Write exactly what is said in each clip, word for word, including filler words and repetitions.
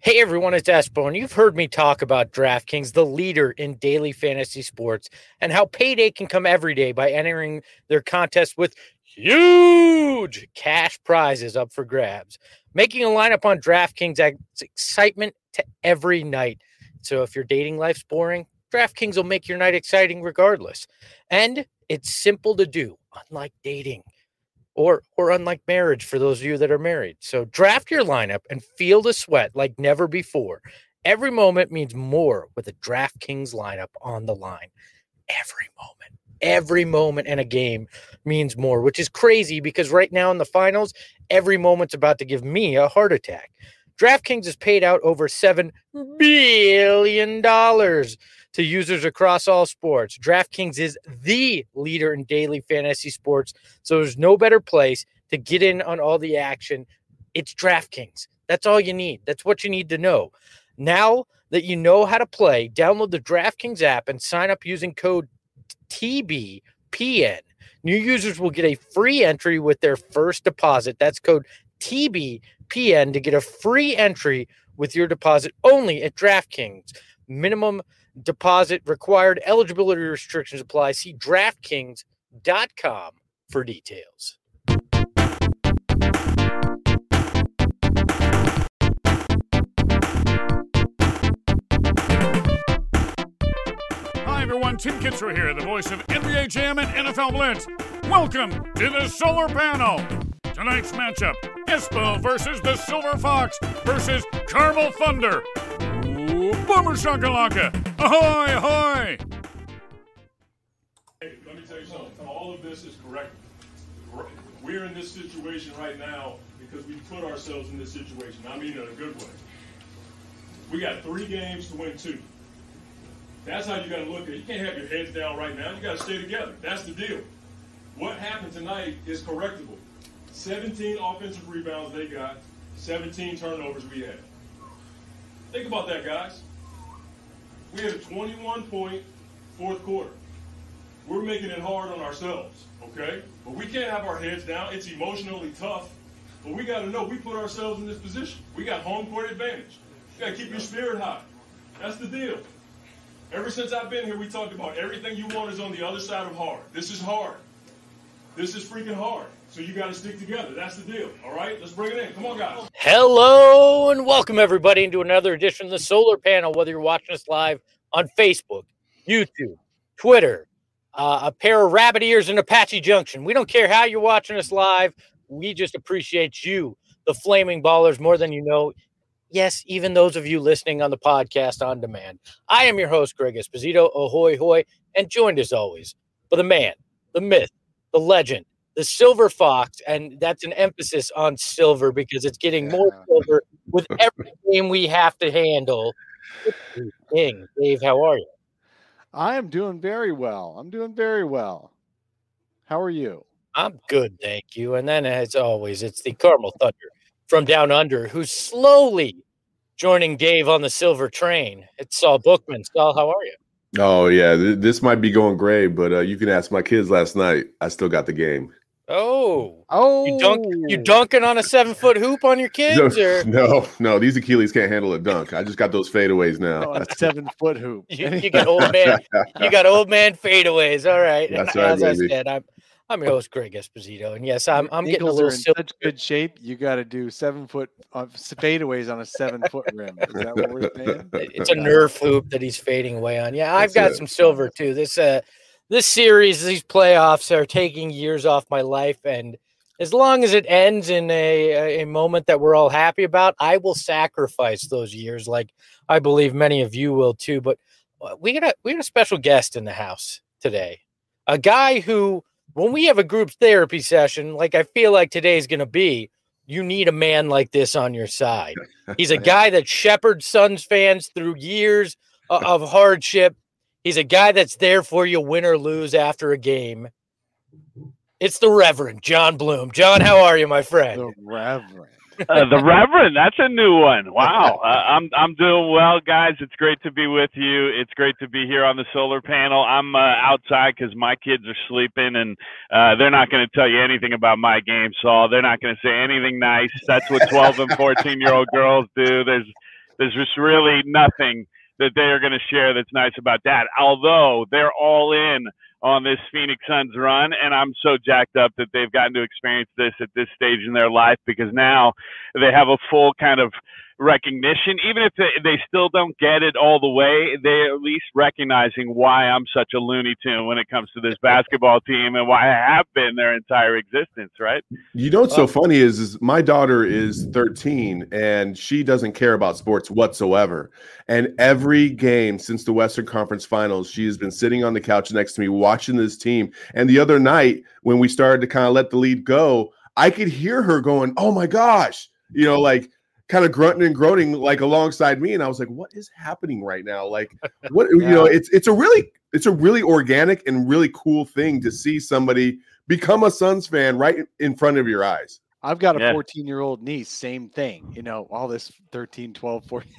Hey everyone, it's Espo. You've heard me talk about DraftKings, the leader in daily fantasy sports, and how payday can come every day by entering their contest with huge cash prizes up for grabs. Making a lineup on DraftKings adds excitement to every night. So if your dating life's boring, DraftKings will make your night exciting regardless. And it's simple to do, unlike dating. Or or unlike marriage for those of you that are married. So draft your lineup and feel the sweat like never before. Every moment means more with a DraftKings lineup on the line. Every moment. Every moment in a game means more, which is crazy because right now in the finals, every moment's about to give me a heart attack. DraftKings has paid out over seven billion dollars to users across all sports. DraftKings is the leader in daily fantasy sports, so there's no better place to get in on all the action. It's DraftKings. That's all you need. That's what you need to know. Now that you know how to play, download the DraftKings app and sign up using code T B P N. New users will get a free entry with their first deposit. That's code T B P N to get a free entry with your deposit only at DraftKings. Minimum deposit required. Eligibility restrictions apply. See DraftKings dot com for details. Hi, everyone. Tim Kitzrow here, the voice of N B A Jam and N F L Blitz. Welcome to the Solar Panel. Tonight's matchup, Espo versus the Silver Fox versus Carmel Thunder. Ooh, Boomer Shakalaka. Ahoy, ahoy! Hey, let me tell you something. All of this is correct. We're in this situation right now because we put ourselves in this situation. I mean in a good way. We got three games to win two. That's how you got to look at it. You can't have your heads down right now. You got to stay together. That's the deal. What happened tonight is correctable. seventeen offensive rebounds they got, seventeen turnovers we had. Think about that, guys. We had a twenty-one point fourth quarter. We're making it hard on ourselves, okay? But we can't have our heads down. It's emotionally tough. But we got to know we put ourselves in this position. We got home court advantage. You got to keep your spirit high. That's the deal. Ever since I've been here, we talked about everything you want is on the other side of hard. This is hard. This is freaking hard. So you got to stick together. That's the deal. All right? Let's bring it in. Come on, guys. Hello and welcome everybody into another edition of the Solar Panel, whether you're watching us live on Facebook, YouTube, Twitter, uh, a pair of rabbit ears in Apache Junction. We don't care how you're watching us live. We just appreciate you, the Flaming Ballers, more than you know. Yes, even those of you listening on the podcast on demand. I am your host, Greg Esposito, ahoy, hoy, and joined as always by the man, the myth, the legend, the Silver Fox, and that's an emphasis on silver because it's getting more silver with every game we have to handle. King, Dave, how are you? I am doing very well. I'm doing very well. How are you? I'm good, thank you. And then, as always, it's the Carmel Thunder from down under who's slowly joining Dave on the silver train. It's Saul Bookman. Saul, how are you? Oh, yeah. Th- this might be going gray, but uh, you can ask my kids last night. I still got the game. Oh. Oh. You, dunk, you dunking on a seven-foot hoop on your kids? No, or no, no. These Achilles can't handle a dunk. I just got those fadeaways now. Oh, a seven-foot hoop. You, you got old man. You got old man fadeaways. All right. That's and right, as baby. I said, I'm I'm your host, Greg Esposito, and yes, I'm I'm getting a Ankles little are in silver. such good shape. You got to do seven-foot uh, fadeaways on a seven-foot rim. Is that what we're saying? It's a Nerf hoop that he's fading away on. Yeah, I've That's got it. some silver too. This uh, this series, these playoffs are taking years off my life, and as long as it ends in a a moment that we're all happy about, I will sacrifice those years, like I believe many of you will too. But we got a we got a special guest in the house today, a guy who, when we have a group therapy session, like I feel like today's going to be, you need a man like this on your side. He's a guy that shepherds Suns fans through years of, of hardship. He's a guy that's there for you, win or lose after a game. It's the Reverend John Bloom. John, how are you, my friend? The Reverend. Uh, the Reverend, that's a new one. Wow. Uh, I'm I'm doing well, guys. It's great to be with you. It's great to be here on the solar panel. I'm uh, outside because my kids are sleeping, and uh, they're not going to tell you anything about my game, Saul. They're not going to say anything nice. That's what twelve and fourteen-year-old girls do. There's There's just really nothing that they are going to share that's nice about that, although they're all in on this Phoenix Suns run, and I'm so jacked up that they've gotten to experience this at this stage in their life, because now they have a full kind of recognition. Even if they, they still don't get it all the way, they're at least recognizing why I'm such a Looney Tune when it comes to this basketball team and why I have been their entire existence, right? You know what's so funny is, is my daughter is thirteen and she doesn't care about sports whatsoever. And every game since the Western Conference Finals, she has been sitting on the couch next to me watching this team. And the other night when we started to kind of let the lead go, I could hear her going, "Oh my gosh," you know, like kind of grunting and groaning like alongside me. And I was like, what is happening right now? Like, what, yeah. you know, it's, it's a really, it's a really organic and really cool thing to see somebody become a Suns fan right in front of your eyes. I've got a yeah. fourteen year old niece, same thing, you know, all this thirteen, twelve, fourteen,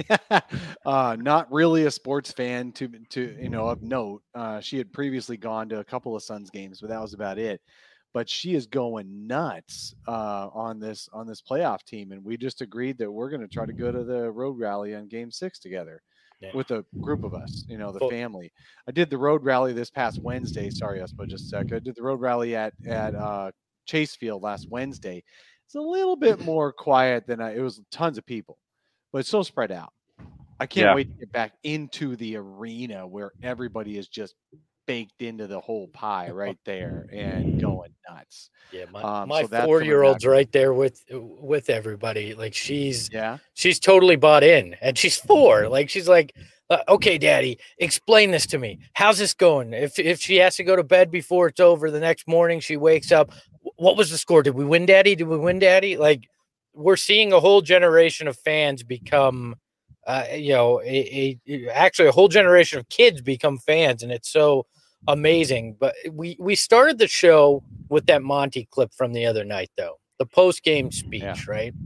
uh, not really a sports fan to, to, you know, of note. Uh, she had previously gone to a couple of Suns games, but that was about it. But she is going nuts uh, on this on this playoff team, and we just agreed that we're going to try to go to the road rally on Game Six together yeah. with a group of us, you know, the oh. family. I did the road rally this past Wednesday. Sorry, Espo, just a sec. I did the road rally at at uh, Chase Field last Wednesday. It's a little bit more quiet than I, it was. Tons of people, but it's so spread out. I can't yeah. wait to get back into the arena where everybody is just baked into the whole pie right there and going nuts. Yeah, my, um, my so four-year-old's right there with with everybody. Like she's yeah, she's totally bought in, and she's four. Like she's like, uh, okay, Daddy, explain this to me. How's this going? If if she has to go to bed before it's over, the next morning she wakes up. What was the score? Did we win, Daddy? Did we win, Daddy? Like we're seeing a whole generation of fans become, uh, you know, a, a actually a whole generation of kids become fans, and it's so amazing. But we we started the show with that Monty clip from the other night, though, the post-game speech, yeah. right?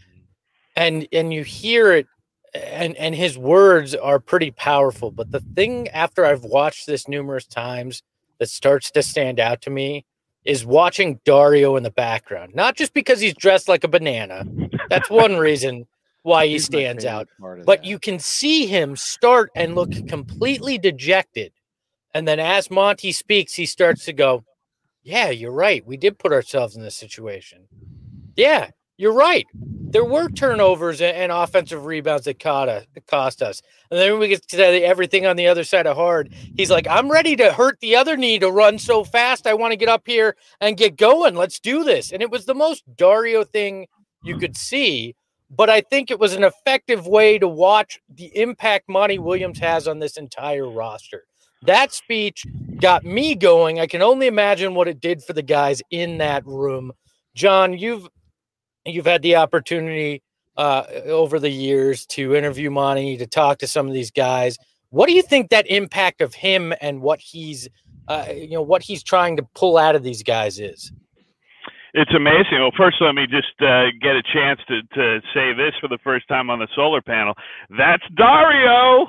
And and you hear it, and and his words are pretty powerful. But the thing, after I've watched this numerous times, that starts to stand out to me is watching Dario in the background. Not just because he's dressed like a banana. That's one reason why he stands out. But that. You can see him start and look completely dejected. And then as Monty speaks, he starts to go, yeah, you're right. We did put ourselves in this situation. Yeah, you're right. There were turnovers and offensive rebounds that cost us. And then we get to everything on the other side of hard. He's like, I'm ready to hurt the other knee to run so fast. I want to get up here and get going. Let's do this. And it was the most Dario thing you could see. But I think it was an effective way to watch the impact Monty Williams has on this entire roster. That speech got me going. I can only imagine what it did for the guys in that room. John, you've you've had the opportunity uh, over the years to interview Monty, to talk to some of these guys. What do you think that impact of him and what he's, uh, you know, what he's trying to pull out of these guys is? It's amazing. Well, first, let me just uh, get a chance to, to say this for the first time on the solar panel. That's Dario.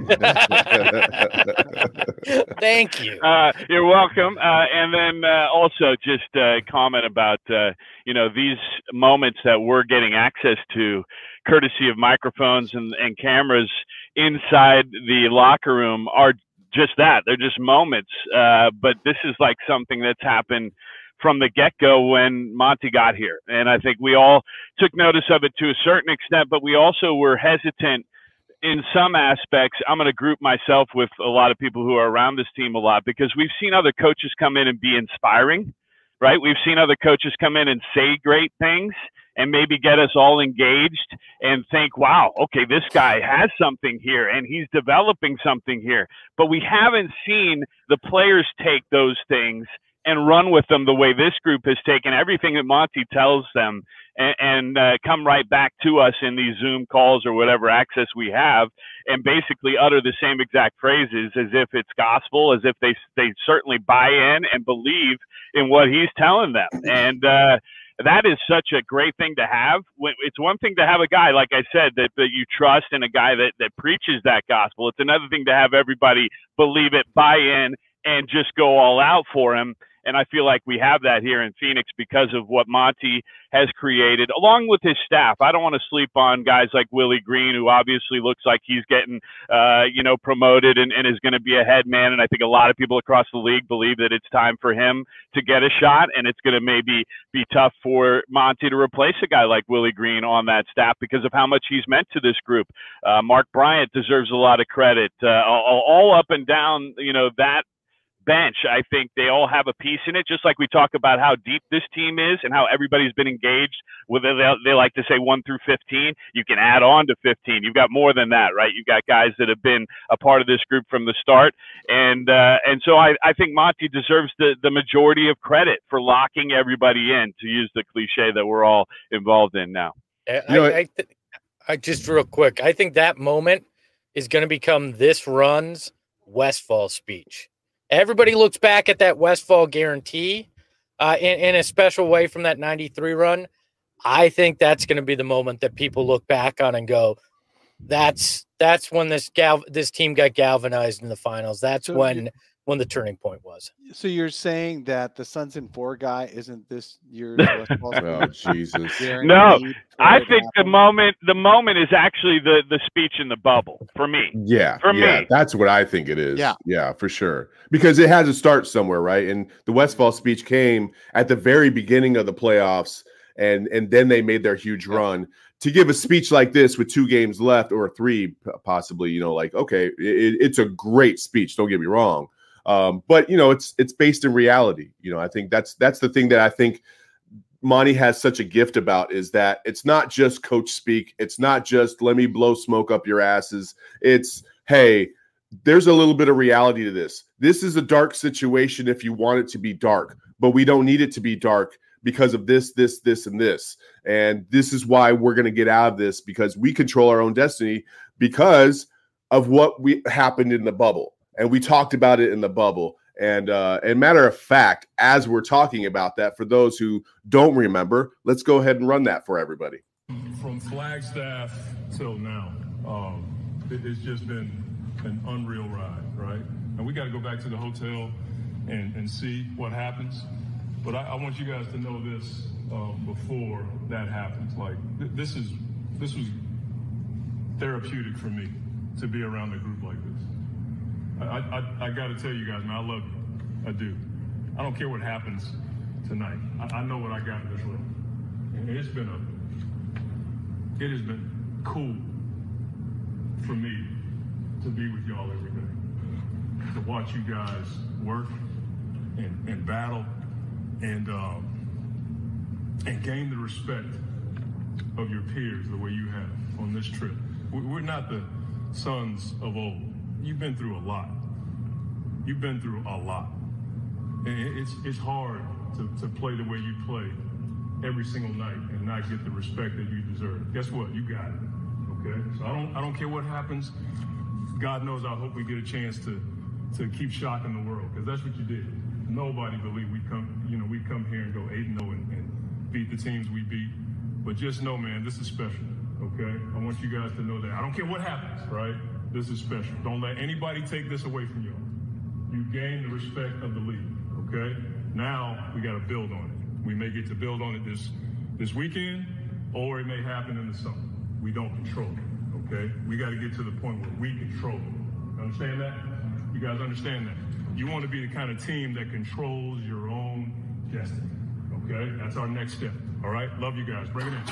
Thank you. Uh, you're welcome. Uh, and then uh, also just uh, comment about, uh, you know, these moments that we're getting access to, courtesy of microphones and, and cameras inside the locker room, are just that. They're just moments. Uh, but this is like something that's happened from the get-go when Monty got here. And I think we all took notice of it to a certain extent, but we also were hesitant in some aspects. I'm going to group myself with a lot of people who are around this team a lot, because we've seen other coaches come in and be inspiring, right? We've seen other coaches come in and say great things and maybe get us all engaged and think, wow, okay, this guy has something here and he's developing something here. But we haven't seen the players take those things and run with them the way this group has taken everything that Monty tells them and, and uh, come right back to us in these Zoom calls or whatever access we have, and basically utter the same exact phrases as if it's gospel, as if they they certainly buy in and believe in what he's telling them. And uh, that is such a great thing to have. It's one thing to have a guy, like I said, that, that you trust, and a guy that, that preaches that gospel. It's another thing to have everybody believe it, buy in, and just go all out for him. And I feel like we have that here in Phoenix because of what Monty has created, along with his staff. I don't want to sleep on guys like Willie Green, who obviously looks like he's getting, uh, you know, promoted and, and is going to be a head man. And I think a lot of people across the league believe that it's time for him to get a shot, and it's going to maybe be tough for Monty to replace a guy like Willie Green on that staff because of how much he's meant to this group. Uh, Mark Bryant deserves a lot of credit. Uh, all, all up and down, you know, that bench, I think they all have a piece in it, just like we talk about how deep this team is and how everybody's been engaged with it. They, they like to say one through fifteen. You can add on to fifteen. You've got more than that, right? You've got guys that have been a part of this group from the start. And uh, and so I, I think Monty deserves the, the majority of credit for locking everybody in, to use the cliche that we're all involved in now. I, you know, I, I, th- I just real quick, I think that moment is going to become this run's Westfall speech. Everybody looks back at that Westfall guarantee uh, in, in a special way from that ninety-three run. I think that's going to be the moment that people look back on and go, that's that's when this gal this team got galvanized in the finals. That's So when you- when the turning point was. So you're saying that the Suns in four guy isn't this year's Westfall Oh, Jesus. No, guaranteed I for it to think the happen? moment the moment is actually the, the speech in the bubble for me. Yeah, For yeah, me. that's what I think it is. Yeah. yeah, for sure. Because it had to start somewhere, right? And the Westfall speech came at the very beginning of the playoffs, and and then they made their huge Yeah. run. To give a speech like this with two games left or three, p- possibly, you know, like okay, it, it's a great speech. Don't get me wrong, um, but you know, it's it's based in reality. You know, I think that's that's the thing that I think Monty has such a gift about is that it's not just coach speak. It's not just let me blow smoke up your asses. It's, hey, there's a little bit of reality to this. This is a dark situation if you want it to be dark, but we don't need it to be dark because of this, this, this, and this. And this is why we're going to get out of this, because we control our own destiny because of what we happened in the bubble. And we talked about it in the bubble. And uh, and matter of fact, as we're talking about that, for those who don't remember, let's go ahead and run that for everybody. From Flagstaff till now, um, it, it's just been an unreal ride, right? And we got to go back to the hotel and, and see what happens. But I, I want you guys to know this um, before that happens. Like th- this is this was therapeutic for me to be around a group like this. I, I, I got to tell you guys, man, I love you. I do. I don't care what happens tonight. I, I know what I got in this room. And it's been a, it has been cool for me to be with y'all every day, to watch you guys work and, and battle and um, and gain the respect of your peers the way you have on this trip. We- We're not the Suns of old. You've been through a lot. You've been through a lot. And it- it's it's hard to, to play the way you play every single night and not get the respect that you deserve. Guess what? You got it. Okay? So I don't I don't care what happens. God knows I hope we get a chance to to keep shocking the world, because that's what you did. Nobody believed we'd come, you know, we'd come here and go eight and oh and, and beat the teams we beat. But just know, man, this is special. Okay? I want you guys to know that. I don't care what happens, right? This is special. Don't let anybody take this away from y'all. You gain the respect of the league, okay? Now we got to build on it. We may get to build on it this this weekend, or it may happen in the summer. We don't control it, okay? We got to get to the point where we control it. Understand that? You guys understand that? You want to be the kind of team that controls your own destiny, okay? That's our next step, all right? Love you guys. Bring it in.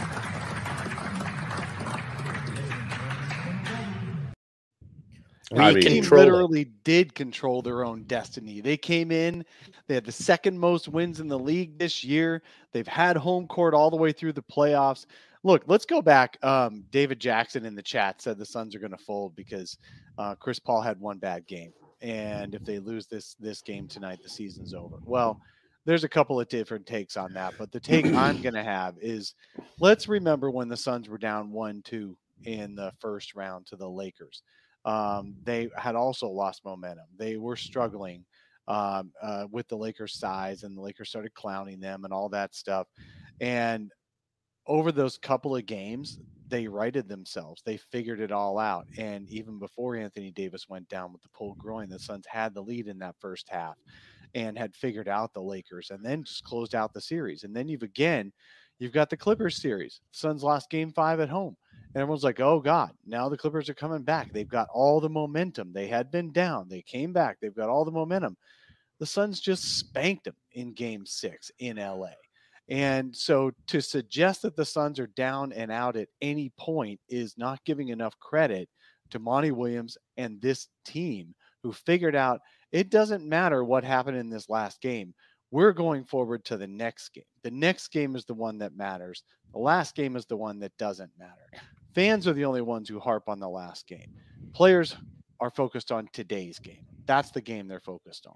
We I mean- The team control it. literally did control their own destiny. They came in, they had the second most wins in the league this year. They've had home court all the way through the playoffs. Look, let's go back. Um, David Jackson in the chat said the Suns are going to fold because uh, Chris Paul had one bad game. And if they lose this this game tonight, the season's over. Well, there's a couple of different takes on that. But the take I'm going to have is, let's remember when the Suns were down one two in the first round to the Lakers. Um, they had also lost momentum. They were struggling um, uh, with the Lakers' size, and the Lakers started clowning them and all that stuff. And over those couple of games, they righted themselves. They figured it all out. And even before Anthony Davis went down with the pulled groin, the Suns had the lead in that first half. and had figured out the Lakers and then just closed out the series. And then you've again, you've got the Clippers series. Suns lost game five at home. And everyone's like, oh, God, now the Clippers are coming back. They've got all the momentum. They had been down. They came back. They've got all the momentum. The Suns just spanked them in game six in L A. And so to suggest that the Suns are down and out at any point is not giving enough credit to Monty Williams and this team who figured out it doesn't matter what happened in this last game. We're going forward to the next game. The next game is the one that matters. The last game is the one that doesn't matter. Fans are the only ones who harp on the last game. Players are focused on today's game. That's the game they're focused on.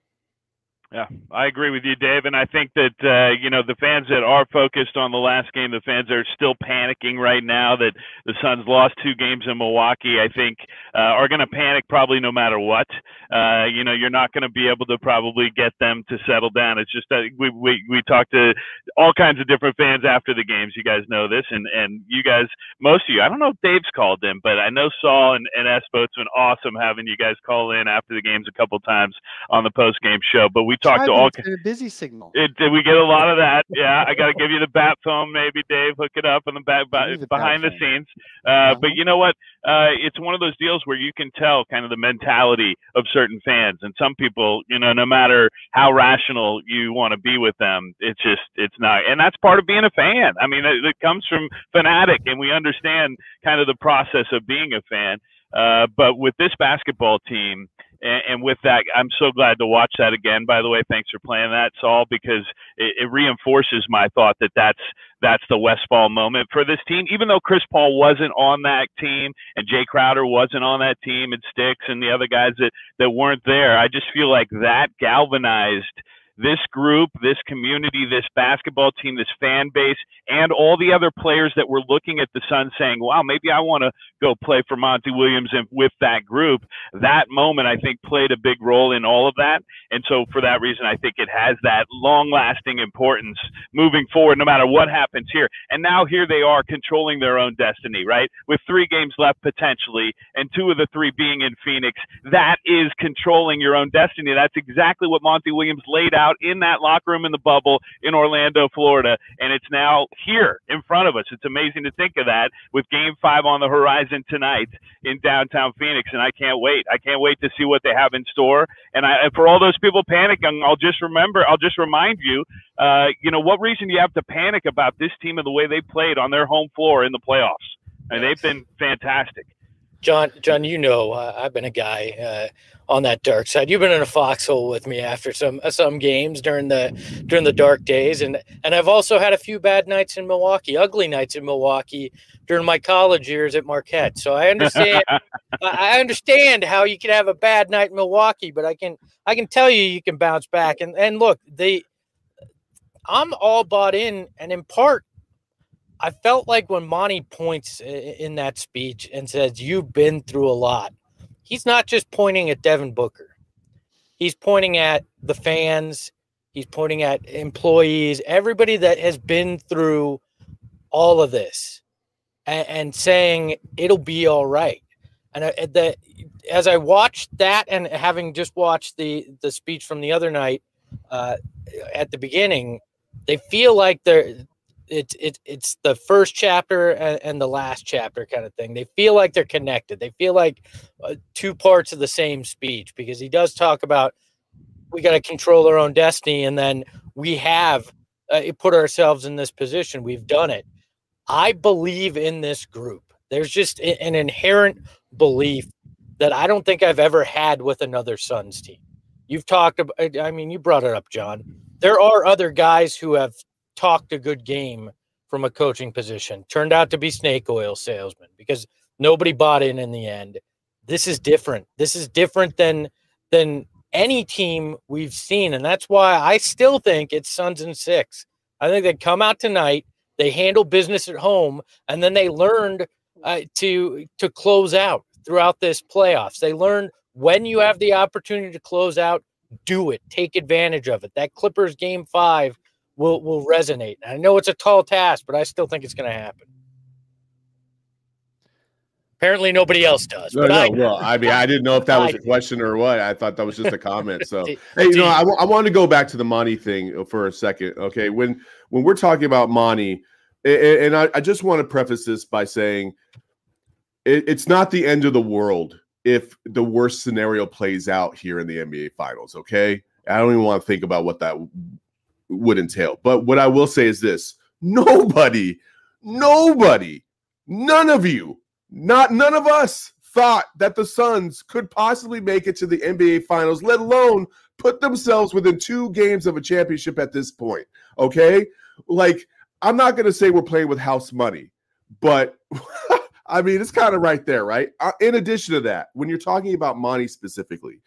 Yeah, I agree with you, Dave. And I think that, uh, you know, the fans that are focused on the last game, the fans that are still panicking right now that the Suns lost two games in Milwaukee, I think uh, are going to panic probably no matter what. Uh, you know, you're not going to be able to probably get them to settle down. It's just that we, we, we talked to all kinds of different fans after the games. You guys know this. And, and you guys, most of you, I don't know if Dave's called in, but I know Saul and, and Espo, it's been awesome having you guys call in after the games a couple times on the post-game show. But we talked to all a busy signal. It, did we get a lot of that? Yeah, I got to give you the bat phone, maybe, Dave. Hook it up on the back the behind the scenes. Uh, uh-huh. But you know what? Uh, it's one of those deals where you can tell kind of the mentality of certain fans, and some people, you know, no matter how rational you want to be with them, it's just it's not. And that's part of being a fan. I mean, it, it comes from fanatic, and we understand kind of the process of being a fan. Uh, but with this basketball team, and, and with that, I'm so glad to watch that again. By the way, thanks for playing that, Saul, because it, it reinforces my thought that that's that's the Westfall moment for this team. Even though Chris Paul wasn't on that team and Jay Crowder wasn't on that team and Sticks and the other guys that, that weren't there, I just feel like that galvanized this group, this community, this basketball team, this fan base, and all the other players that were looking at the Suns saying, wow, maybe I want to go play for Monty Williams and with that group. That moment, I think, played a big role in all of that. And so for that reason, I think it has that long-lasting importance moving forward, no matter what happens here. And now here they are controlling their own destiny, right? With three games left potentially, and two of the three being in Phoenix. That is controlling your own destiny. That's exactly what Monty Williams laid out in that locker room in the bubble in Orlando, Florida, and it's now here in front of us. It's amazing to think of that with game five on the horizon tonight in downtown Phoenix, and I can't wait. I can't wait to see what they have in store. And, I, and for all those people panicking, I'll just remember, I'll just remind you, uh, you know, what reason do you have to panic about this team and the way they played on their home floor in the playoffs? And they've been fantastic. John, John, you know, uh, I've been a guy uh, on that dark side. You've been in a foxhole with me after some uh, some games during the during the dark days, and and I've also had a few bad nights in Milwaukee, ugly nights in Milwaukee during my college years at Marquette. So I understand, I understand how you can have a bad night in Milwaukee, but I can I can tell you you can bounce back. And and look, they, I'm all bought in, and in part, I felt like when Monty points in that speech and says, you've been through a lot, he's not just pointing at Devin Booker. He's pointing at the fans. He's pointing at employees, everybody that has been through all of this, and, and saying it'll be all right. And I, the, as I watched that, and having just watched the, the speech from the other night uh, at the beginning, they feel like they're – It's it, it's the first chapter and, and the last chapter kind of thing. They feel like they're connected. They feel like uh, two parts of the same speech, because he does talk about we got to control our own destiny, and then we have uh, put ourselves in this position. We've done it. I believe in this group. There's just an inherent belief that I don't think I've ever had with another Suns team. You've talked about, I mean, you brought it up, John. There are other guys who have talked a good game from a coaching position, turned out to be snake oil salesmen because nobody bought in in the end. This is different. This is different than than any team we've seen, and that's why I still think it's Suns in six. I think they come out tonight, they handle business at home, and then they learned uh, to to close out throughout this playoffs. They learned when you have the opportunity to close out, do it. Take advantage of it. That Clippers game five will will resonate. I know it's a tall task, but I still think it's going to happen. Apparently nobody else does. No, but no. I, Well, I mean, I didn't know if that was I a question or what. I thought that was just a comment. So, Did- hey, you know, did- I, w- I want to go back to the Monty thing for a second. Okay, when when we're talking about Monty, and, and I, I just want to preface this by saying it, it's not the end of the world if the worst scenario plays out here in the N B A Finals. Okay, I don't even want to think about what that w- would entail. But what I will say is this: nobody, nobody, none of you. Not none of us thought that the Suns could possibly make it to the N B A Finals, let alone put themselves within two games of a championship at this point. Okay? Like, I'm not going to say we're playing with house money, but I mean, it's kind of right there, right? Uh, in addition to that, when you're talking about Monty specifically,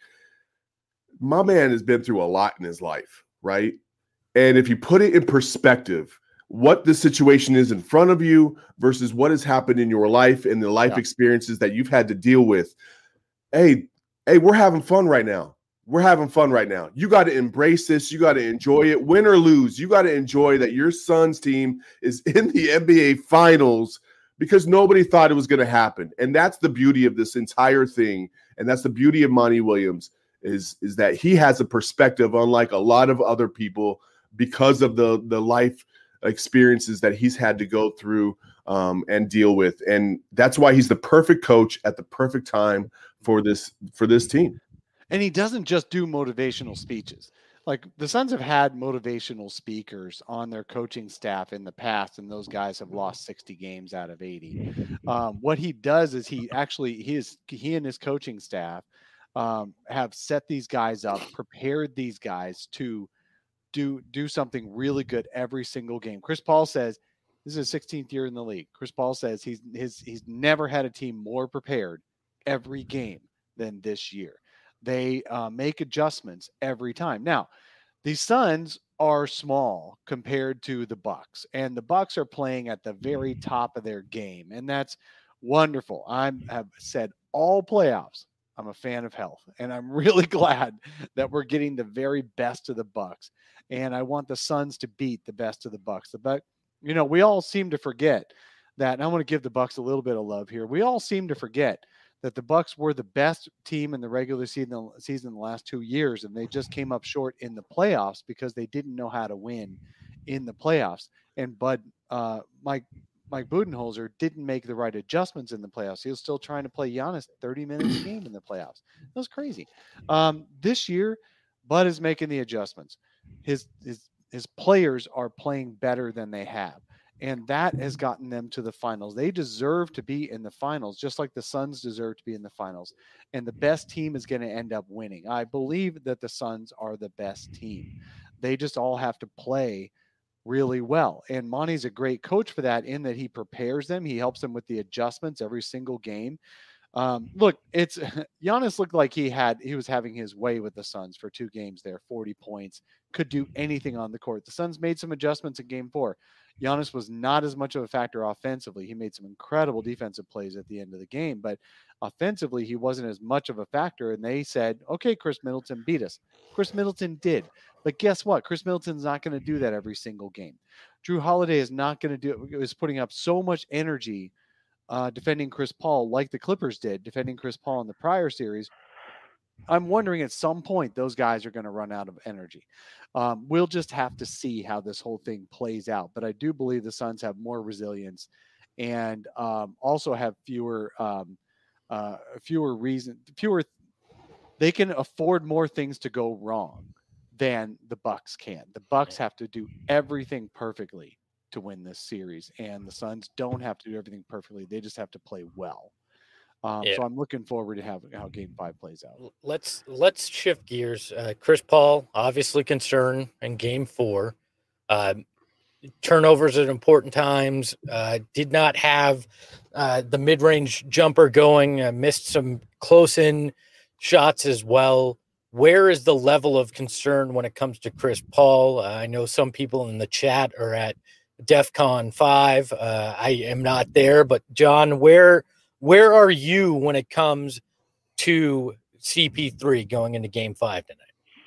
my man has been through a lot in his life, right? And if you put it in perspective, what the situation is in front of you versus what has happened in your life and the life Yeah. experiences that you've had to deal with. Hey, hey, we're having fun right now. We're having fun right now. You got to embrace this. You got to enjoy it. Win or lose, you got to enjoy that your son's team is in the N B A Finals because nobody thought it was going to happen. And that's the beauty of this entire thing. And that's the beauty of Monty Williams is, is that he has a perspective unlike a lot of other people because of the, the life experiences that he's had to go through um, and deal with. And that's why he's the perfect coach at the perfect time for this, for this team. And he doesn't just do motivational speeches. Like the Suns have had motivational speakers on their coaching staff in the past, and those guys have lost sixty games out of eighty. Um, what he does is he actually, his, he and his coaching staff um, have set these guys up, prepared these guys to do do something really good every single game. Chris Paul says this is his sixteenth year in the league. Chris Paul says he's his he's never had a team more prepared every game than this year. They uh, make adjustments every time. Now, the Suns are small compared to the Bucks, and the Bucks are playing at the very top of their game, and that's wonderful. I have said all playoffs, I'm a fan of health, and I'm really glad that we're getting the very best of the Bucks. And I want the Suns to beat the best of the Bucks. The Buck, you know, we all seem to forget that. And I want to give the Bucks a little bit of love here. We all seem to forget that the Bucks were the best team in the regular season, season in the last two years, and they just came up short in the playoffs because they didn't know how to win in the playoffs. And Bud, uh, Mike, Mike Budenholzer didn't make the right adjustments in the playoffs. He was still trying to play Giannis thirty minutes a game in the playoffs. That was crazy. Um, this year, Bud is making the adjustments. His his his players are playing better than they have, and that has gotten them to the finals. They deserve to be in the finals, just like the Suns deserve to be in the finals. And the best team is going to end up winning. I believe that the Suns are the best team. They just all have to play really well. And Monty's a great coach for that, in that he prepares them. He helps them with the adjustments every single game. Um, look, it's Giannis looked like he had, he was having his way with the Suns for two games there, forty points, could do anything on the court. The Suns made some adjustments in game four. Giannis was not as much of a factor offensively. He made some incredible defensive plays at the end of the game, but offensively, he wasn't as much of a factor. And they said, okay, Chris Middleton, beat us. Chris Middleton did. But guess what? Chris Middleton's not going to do that every single game. Drew Holiday is not going to do it. Is putting up so much energy uh, defending Chris Paul like the Clippers did, defending Chris Paul in the prior series. I'm wondering at some point those guys are going to run out of energy. Um, we'll just have to see how this whole thing plays out. But I do believe the Suns have more resilience and um, also have fewer um, uh, fewer reasons, fewer. They can afford more things to go wrong than the Bucks can. The Bucks have to do everything perfectly to win this series, and the Suns don't have to do everything perfectly. They just have to play well. Um, Yeah. So I'm looking forward to how, how game five plays out. Let's let's shift gears. Uh, Chris Paul, obviously concerned in game four. Uh, turnovers at important times. Uh, did not have uh, the mid-range jumper going. Uh, missed some close-in shots as well. Where is the level of concern when it comes to Chris Paul? Uh, I know some people in the chat are at DEFCON five. Uh, I am not there, but John, where where are you when it comes to C P three going into game five tonight?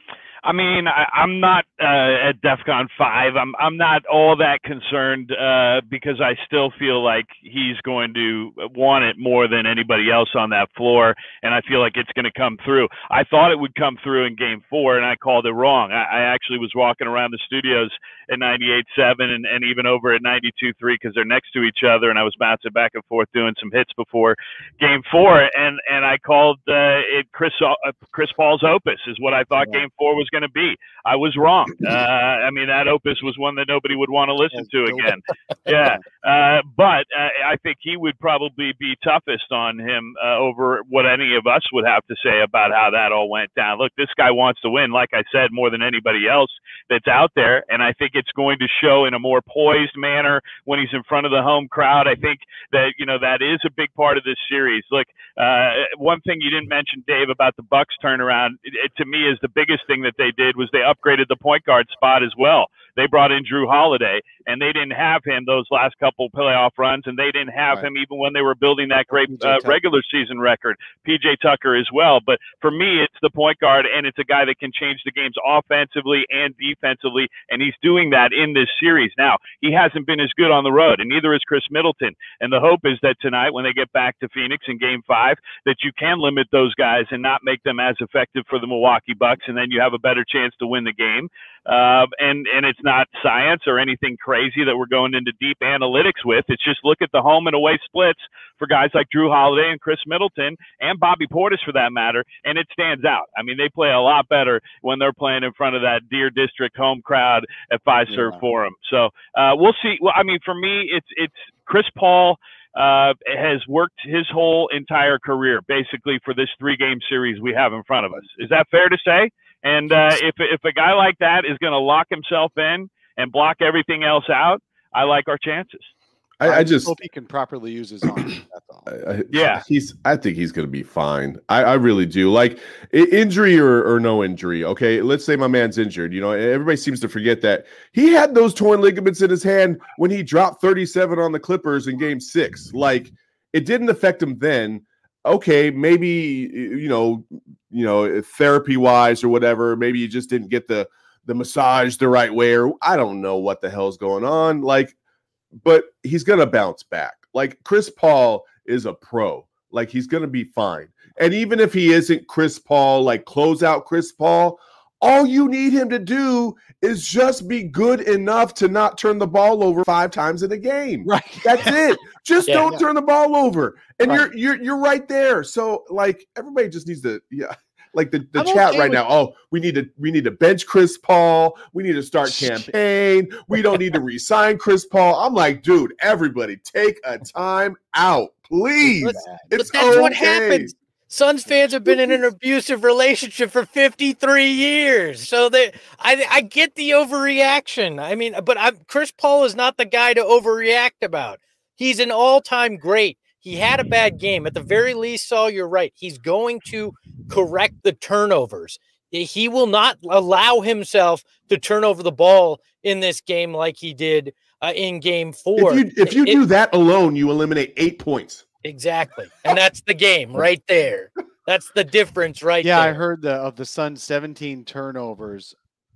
I mean, I, I'm not uh, at DEFCON five. I'm I'm not all that concerned uh, because I still feel like he's going to want it more than anybody else on that floor, and I feel like it's going to come through. I thought it would come through in Game Four, and I called it wrong. I, I actually was walking around the studios at ninety-eight seven and, and even over at ninety-two three because they're next to each other, and I was bouncing back and forth doing some hits before Game Four, and and I called uh, it Chris uh, Chris Paul's opus is what I thought yeah. Game Four was going to be. I was wrong. Uh, I mean, that opus was one that nobody would want to listen to again. Yeah, uh, but uh, I think he would probably be toughest on him uh, over what any of us would have to say about how that all went down. Look, this guy wants to win, like I said, more than anybody else that's out there, and I think it's going to show in a more poised manner when he's in front of the home crowd. I think that, you know, that is a big part of this series. Look, uh, one thing you didn't mention, Dave, about the Bucks turnaround, it, it, to me is the biggest thing that they did was they upgraded the point guard spot as well. They brought in Drew Holiday, and they didn't have him those last couple playoff runs, and they didn't have right. him even when they were building that great uh, regular season record. P J Tucker as well. But for me, it's the point guard, and it's a guy that can change the games offensively and defensively, and he's doing that in this series. Now, he hasn't been as good on the road, and neither is Chris Middleton. And the hope is that tonight, when they get back to Phoenix in Game five, that you can limit those guys and not make them as effective for the Milwaukee Bucks, and then you have a better chance to win the game. Uh, and, and it's not science or anything crazy that we're going into deep analytics with. It's just look at the home and away splits for guys like Drew Holiday and Chris Middleton and Bobby Portis for that matter, and it stands out. I mean, they play a lot better when they're playing in front of that Deer District home crowd at Fiserv yeah. Forum. So uh, we'll see. Well, I mean, for me, it's it's Chris Paul uh, has worked his whole entire career basically for this three-game series we have in front of us. Is that fair to say? And uh, if if a guy like that is going to lock himself in and block everything else out, I like our chances. I, I just hope he can properly use his arm. That's all. I, yeah, he's. I think he's going to be fine. I, I really do. Like injury or, or no injury. Okay, let's say my man's injured. You know, everybody seems to forget that he had those torn ligaments in his hand when he dropped thirty-seven on the Clippers in Game Six. Like it didn't affect him then. Okay, maybe you know, you know, therapy wise or whatever. Maybe you just didn't get the the massage the right way, or I don't know what the hell's going on. Like. But he's going to bounce back. Like Chris Paul is a pro. Like he's going to be fine. And even if he isn't Chris Paul, like close out Chris Paul, all you need him to do is just be good enough to not turn the ball over five times in a game. Right. That's it. Just yeah, don't yeah. turn the ball over. And right. you're you're you're right there. So like everybody just needs to yeah. Like the, the I'm chat okay right with- now. Oh, we need to we need to bench Chris Paul. We need to start campaign. We don't need to re-sign Chris Paul. I'm like, dude, everybody take a time out, please. But, it's but that's okay. what happens. Suns fans have been in an abusive relationship for fifty-three years. So they I I get the overreaction. I mean, but I'm, Chris Paul is not the guy to overreact about. He's an all-time great. He had a bad game. At the very least, Saul, you're right. He's going to correct the turnovers. He will not allow himself to turn over the ball in this game like he did uh, in game four. If you, if you it, do that alone, you eliminate eight points. Exactly. And that's the game right there. That's the difference right yeah, there. I heard the of the Suns' seventeen turnovers,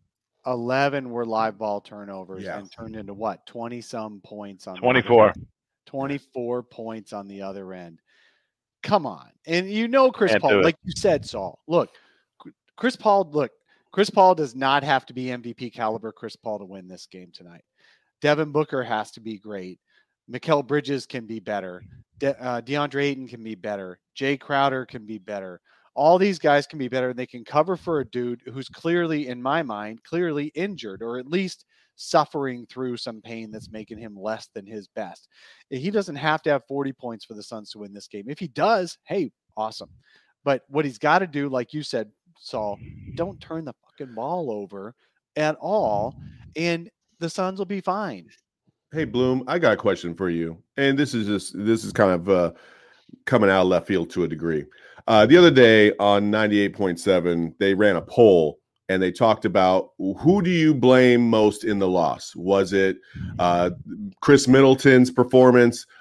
eleven were live ball turnovers Yeah. and turned into what? twenty-some points on the twenty-four. other end. twenty-four points on the other end. Come on. And you know Chris Can't do Paul, it. like you said, Saul. Look, Chris Paul, look, Chris Paul does not have to be M V P caliber Chris Paul to win this game tonight. Devin Booker has to be great. Mikal Bridges can be better. De- uh, DeAndre Ayton can be better. Jay Crowder can be better. All these guys can be better, and they can cover for a dude who's clearly, in my mind, clearly injured, or at least suffering through some pain that's making him less than his best. He doesn't have to have forty points for the Suns to win this game. If he does, hey, awesome. But what he's got to do, like you said, Saul, don't turn the fucking ball over at all, and the Suns will be fine. Hey, Bloom, I got a question for you. And this is just, this is kind of uh, coming out of left field to a degree. Uh, the other day on ninety-eight point seven, they ran a poll and they talked about who do you blame most in the loss? Was it uh, Chris Middleton's performance?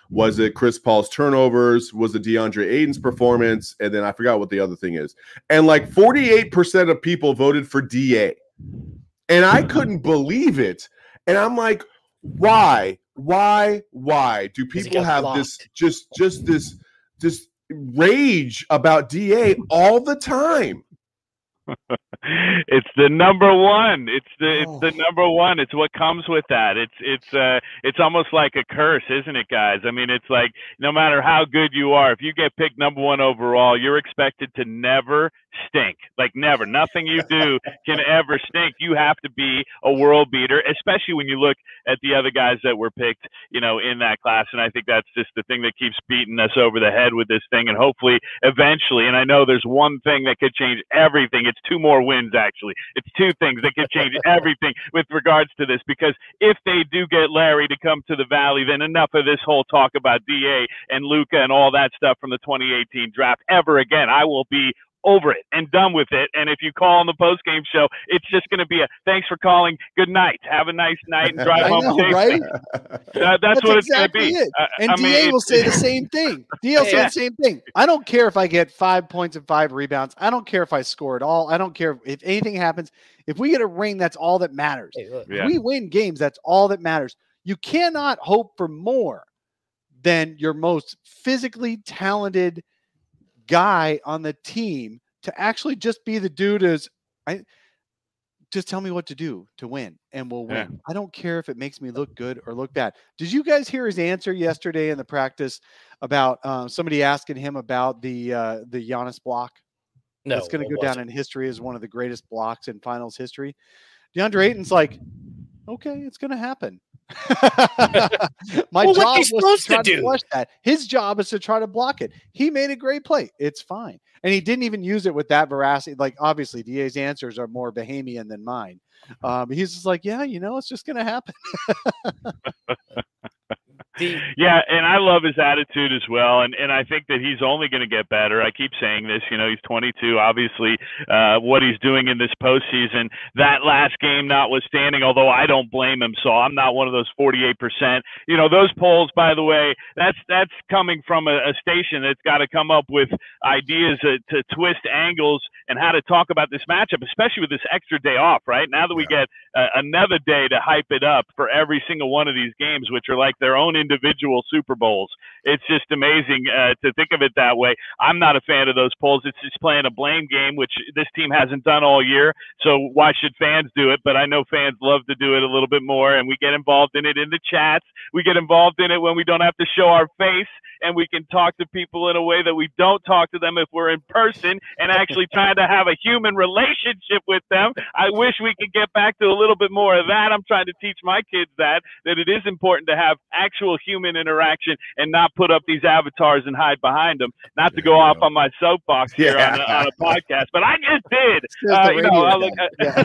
Was it Chris Paul's turnovers? Was it DeAndre Ayton's performance? And then I forgot what the other thing is. And like forty-eight percent of people voted for D A. And I couldn't believe it. And I'm like, why? Why? Why do people have blocked. this just just this this rage about D A all the time? It's the number one. It's the Oh. it's the number one. It's what comes with that. It's it's uh it's almost like a curse, isn't it, guys? I mean, it's like no matter how good you are, if you get picked number one overall, you're expected to never stink. Like never. Nothing you do can ever stink. You have to be a world beater, especially when you look at the other guys that were picked, you know, in that class. And I think that's just the thing that keeps beating us over the head with this thing. And hopefully eventually, and I know there's one thing that could change everything. It's two more wins, actually. It's two things that could change everything with regards to this, because if they do get Larry to come to the Valley, then enough of this whole talk about D A and Luka and all that stuff from the twenty eighteen draft ever again. I will be over it and done with it. And if you call on the post-game show, it's just going to be a thanks for calling, good night, have a nice night, and drive I home know, safely. right? Uh, that's, That's what exactly it's going to be. it. Uh, And I D mean, A will it's- say the same thing. D A will say Yeah. the same thing. I don't care if I get five points and five rebounds. I don't care if I score at all. I don't care if anything happens. If we get a ring, that's all that matters. Hey, look, Yeah. If we win games, that's all that matters. You cannot hope for more than your most physically talented guy on the team to actually just be the dude as I just tell me what to do to win and we'll win. Yeah. I don't care if it makes me look good or look bad. Did you guys hear his answer yesterday in the practice about uh, somebody asking him about the uh, the Giannis block? no, That's going to it go down wasn't. in history as one of the greatest blocks in finals history. DeAndre Ayton's like, okay, it's going to happen. My Well, what job they was supposed to try to to do? flush that. His job is to try to block it. He made a great play. It's fine. And he didn't even use it with that veracity. Like, obviously, D A's answers are more Bahamian than mine. Um, he's just like, yeah, you know, it's just going to happen. The, Yeah, and I love his attitude as well, and and I think that he's only going to get better. I keep saying this, you know, he's twenty-two. Obviously, uh, what he's doing in this postseason, that last game notwithstanding, although I don't blame him, so I'm not one of those forty-eight percent. You know, those polls, by the way, that's that's coming from a, a station that's got to come up with ideas to, to twist angles and how to talk about this matchup, especially with this extra day off, right? Now that we get uh, another day to hype it up for every single one of these games, which are like their own individual Super Bowls. It's just amazing uh, to think of it that way. I'm not a fan of those polls. It's just playing a blame game, which this team hasn't done all year. So why should fans do it? But I know fans love to do it a little bit more, and we get involved in it in the chats. We get involved in it when we don't have to show our face, and we can talk to people in a way that we don't talk to them if we're in person and actually trying to have a human relationship with them. I wish we could get back to a little bit more of that. I'm trying to teach my kids that, that it is important to have actual human interaction and not put up these avatars and hide behind them. Not to go off on my soapbox here Yeah. on, a, on a podcast, but I just did. Just Uh, the you know, radio I look guy. at,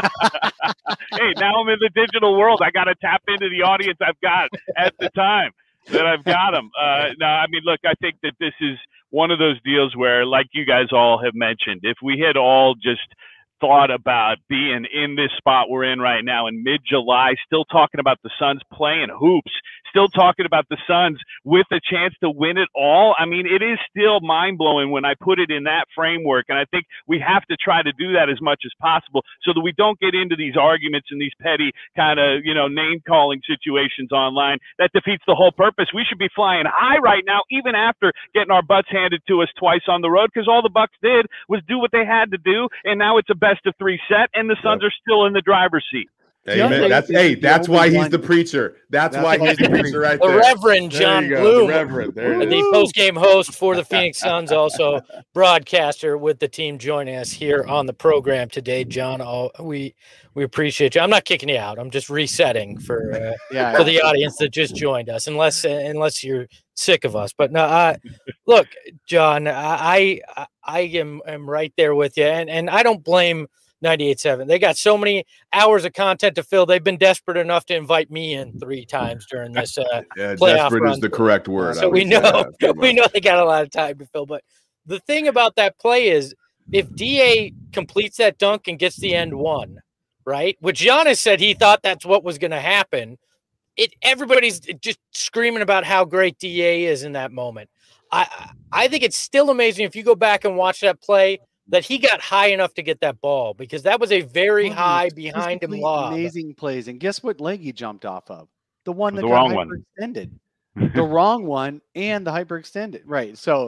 hey, now I'm in the digital world. I got to tap into the audience I've got at the time that I've got them. Uh, no, I mean, look, I think that this is one of those deals where, like you guys all have mentioned, if we had all just thought about being in this spot we're in right now in mid-July, still talking about the Suns playing hoops, still talking about the Suns with a chance to win it all. I mean, it is still mind-blowing when I put it in that framework, and I think we have to try to do that as much as possible so that we don't get into these arguments and these petty kind of, you know, name-calling situations online. That defeats the whole purpose. We should be flying high right now, even after getting our butts handed to us twice on the road, because all the Bucks did was do what they had to do, and now it's a best of three set, and the Suns are still in the driver's seat. Amen. That's hey, that's why he's the preacher. That's, That's why why he's the preacher right the there. Reverend There John you go, Bloom, the Reverend. There it the is. post-game host for the Phoenix Suns, also broadcaster with the team, joining us here on the program today. John, oh, we we appreciate you. I'm not kicking you out. I'm just resetting for uh, Yeah. for the audience that just joined us, unless unless you're sick of us. But no, uh, look, John, I I, I am am right there with you, and and I don't blame ninety-eight seven. They got so many hours of content to fill. They've been desperate enough to invite me in three times during this uh, Yeah, playoff desperate run. is the correct word. I So would we say. know Yeah, pretty we much. know they got a lot of time to fill. But the thing about that play is, if D A completes that dunk and gets the end one, right? Which Giannis said he thought that's what was going to happen. it everybody's just screaming about how great D A is in that moment. I I think it's still amazing if you go back and watch that play that he got high enough to get that ball, because that was a very One high of those behind him physically lob. Amazing plays. And guess what leg he jumped off of? The one that The got wrong one. hyperextended. The wrong one and the hyperextended. Right. So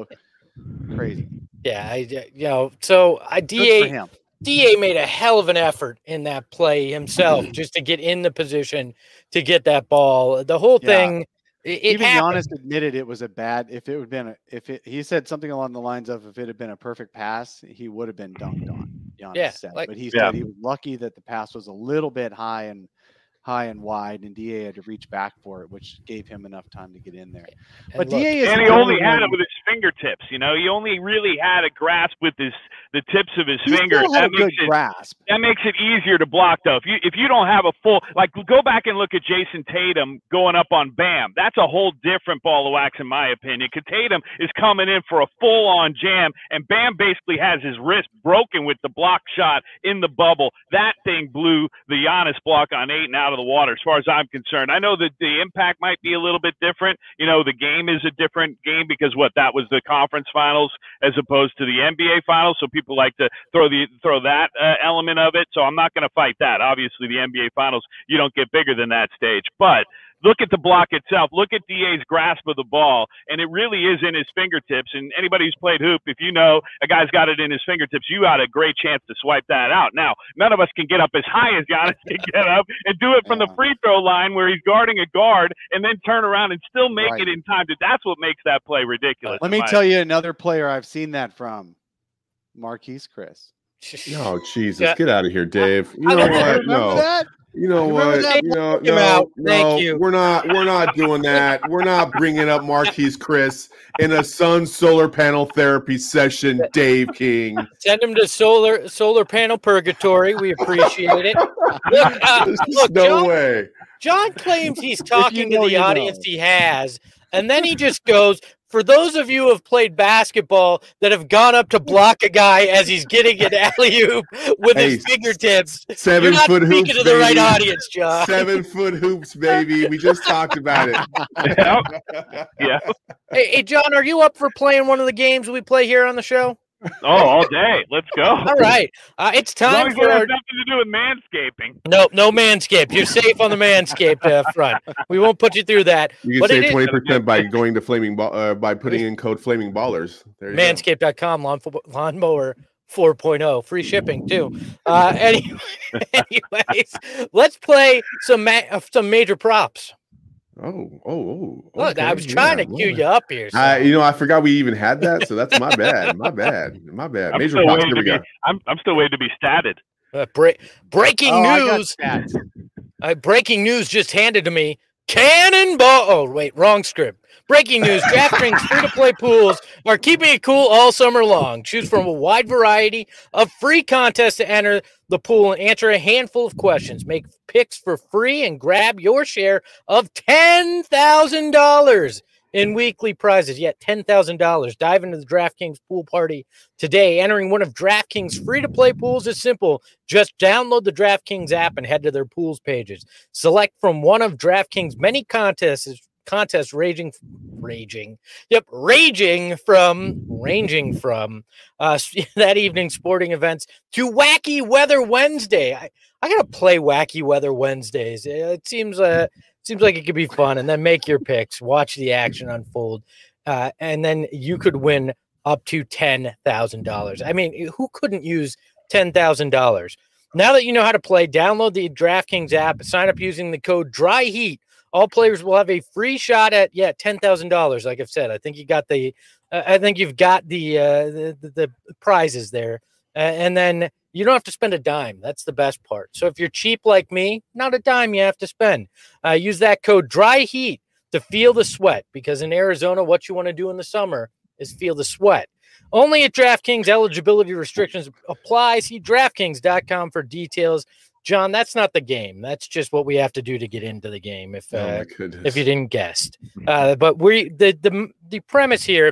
crazy. Yeah, I, you know, so I Good D for A him. D A made a hell of an effort in that play himself just to get in the position to get that ball. The whole Yeah. thing, it, it Even happened. Giannis admitted it was a bad. If it would have been, a, if it, he said something along the lines of, if it had been a perfect pass, he would have been dunked on. Giannis Yeah, said, like- but he Yeah. said he was lucky that the pass was a little bit high and high and wide, and D A had to reach back for it, which gave him enough time to get in there. And But look, D A is And he the only only had it one- with his fingertips. You know, he only really had a grasp with his the tips of his he fingers. still had a That good makes it grasp. that makes it easier to block, though. If you if you don't have a full, like, go back and look at Jason Tatum going up on Bam. That's a whole different ball of wax, in my opinion. Because Tatum is coming in for a full-on jam, and Bam basically has his wrist broken with the block shot in the bubble. That thing blew the Giannis block on Ayton out of the water, as far as I'm concerned. I know that the impact might be a little bit different. You know, the game is a different game because what that was the conference finals as opposed to the N B A finals. So people like to throw the throw that uh, element of it. So I'm not going to fight that. Obviously, the N B A finals, you don't get bigger than that stage. But look at the block itself. Look at D A's grasp of the ball, and it really is in his fingertips. And anybody who's played hoop, if you know a guy's got it in his fingertips, you got a great chance to swipe that out. Now, none of us can get up as high as Giannis can get up and do it from the Yeah. free throw line where he's guarding a guard and then turn around and still make Right. it in time. That's what makes that play ridiculous. Let me tell you another player I've seen that from, Marquise Chris. Oh Jesus, Yeah. get out of here, Dave. You I know don't what? Remember No. that? You know Remember what? that? You know, Him no, out. no, Thank you. we're not. We're not doing that. We're not bringing up Marquise Chris in a sun solar panel therapy session. Dave King. Send him to solar solar panel purgatory. We appreciate it. Look, uh, There's just look, no John, way. John claims he's talking know, to the you audience know. he has, and then he just goes, for those of you who have played basketball that have gone up to block a guy as he's getting an alley-oop with Hey, his fingertips, Seven you're not foot speaking hoops, to the right baby. audience, John. Seven foot hoops, baby. We just talked about it. Yeah. Yeah. Hey, hey, John, are you up for playing one of the games we play here on the show? Oh, all day. Let's go. All right. Uh, it's As long time as it for has our... nothing to do with manscaping. No, no Manscaped. You're safe on the Manscaped uh, front. We won't put you through that. You But can it save is- twenty percent by going to flaming ball uh, by putting in code flaming ballers. There you go. Manscaped dot com, lawn, lawnmower four point oh, free shipping too. Uh, anyway, anyways, let's play some ma- uh, some major props. Oh, oh, oh. Look, I okay, was trying yeah, to cue boy. you up here. so- I, you know, I forgot we even had that, so that's my bad. My bad. My bad. I'm Major still, props. waiting Here to we be, go. I'm, I'm still waiting to be statted. Uh, bre- breaking Oh, I got news. stats. Uh, breaking news just handed to me. Cannonball. Oh, wait, wrong script. Breaking news. DraftKings free-to-play pools are keeping it cool all summer long. Choose from a wide variety of free contests to enter the pool and answer a handful of questions. Make picks for free and grab your share of ten thousand dollars in weekly prizes. Yet ten thousand dollars. Dive into the DraftKings pool party today. Entering one of DraftKings free-to-play pools is simple. Just download the DraftKings app and head to their pools pages. Select from one of DraftKings' many contests, contests raging, raging, yep, raging from, ranging from uh, that evening's sporting events to Wacky Weather Wednesday. I, I gotta play Wacky Weather Wednesdays. It seems uh, seems like it could be fun, and then make your picks, watch the action unfold, uh, and then you could win up to ten thousand dollars. I mean, who couldn't use ten thousand dollars? Now that you know how to play, download the DraftKings app, sign up using the code DRYHEAT. All players will have a free shot at, yeah, ten thousand dollars. Like I've said, I think you got the, uh, I think you've got the, uh, the, the, the prizes there. Uh, and then you don't have to spend a dime. That's the best part. So if you're cheap like me, not a dime you have to spend. Uh, use that code DRYHEAT to feel the sweat, because in Arizona, what you want to do in the summer is feel the sweat. Only at DraftKings. Eligibility restrictions apply. See DraftKings dot com for details. John, that's not the game. That's just what we have to do to get into the game. If Oh uh, my goodness. if you didn't guess, uh, but we the the the premise here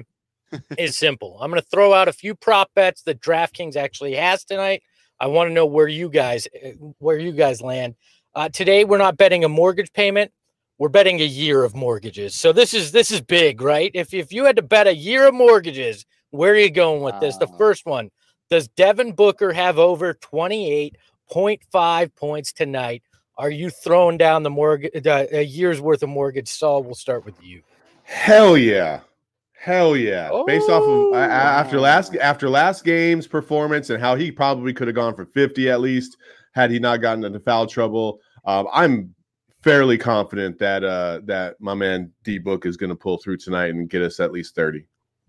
is simple. I'm going to throw out a few prop bets that DraftKings actually has tonight. I want to know where you guys where you guys land. Uh, today, we're not betting a mortgage payment, we're betting a year of mortgages. So this is this is big, right? If if you had to bet a year of mortgages, where are you going with this? The first one, does Devin Booker have over twenty-eight point five points tonight? Are you throwing down the mortgage, uh, a year's worth of mortgage? Saul, we'll start with you. Hell yeah. Hell yeah. Oh. Based off of uh, after last after last game's performance and how he probably could have gone for fifty at least had he not gotten into foul trouble. Um, I'm fairly confident that uh, that my man D Book is going to pull through tonight and get us at least thirty.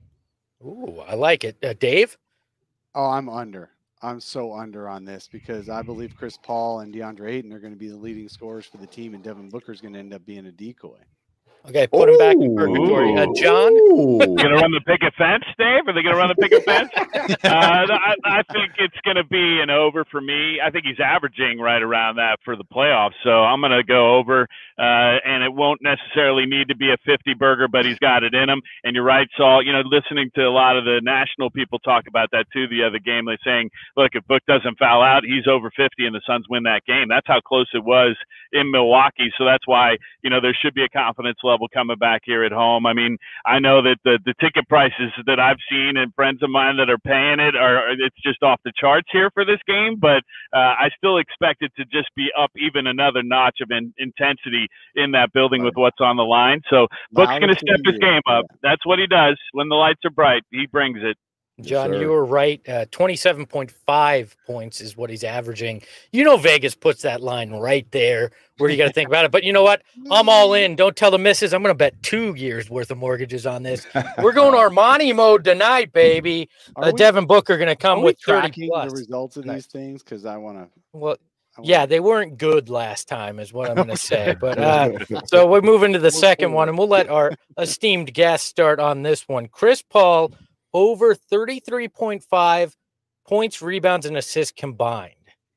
Ooh, I like it. Uh, Dave? Oh, I'm under. I'm so under on this because I believe Chris Paul and DeAndre Ayton are going to be the leading scorers for the team, and Devin Booker is going to end up being a decoy. Okay, put him back in purgatory. Uh, John? Going to run the picket fence, Dave? Are they going to run the picket fence? uh, I, I think it's going to be an over for me. I think he's averaging right around that for the playoffs, so I'm going to go over, uh, and it won't necessarily need to be a fifty burger, but he's got it in him. And you're right, Saul. You know, listening to a lot of the national people talk about that too the other game, they're saying, look, if Book doesn't foul out, he's over fifty, and the Suns win that game. That's how close it was in Milwaukee, so that's why, you know, there should be a confidence level coming back here at home. I mean, I know that the, the ticket prices that I've seen and friends of mine that are paying it are, it's just off the charts here for this game, but uh, I still expect it to just be up even another notch of in, intensity in that building with what's on the line. So Book's going to step his game up. That's what he does. When the lights are bright, he brings it. John, Yes, you were right. Uh, twenty-seven point five points is what he's averaging. You know, Vegas puts that line right there where you got to think about it. But you know what? I'm all in. Don't tell the missus. I'm going to bet two years worth of mortgages on this. We're going Armani mode tonight, baby. Uh, we- Devin Booker going to come Are we with thirty tracking plus. the results of Nice. these things? Because I want to. Well, yeah, they weren't good last time, is what I'm going to say. But uh, so we're moving to the second one, and we'll let our esteemed guest start on this one. Chris Paul over thirty-three point five points, rebounds, and assists combined.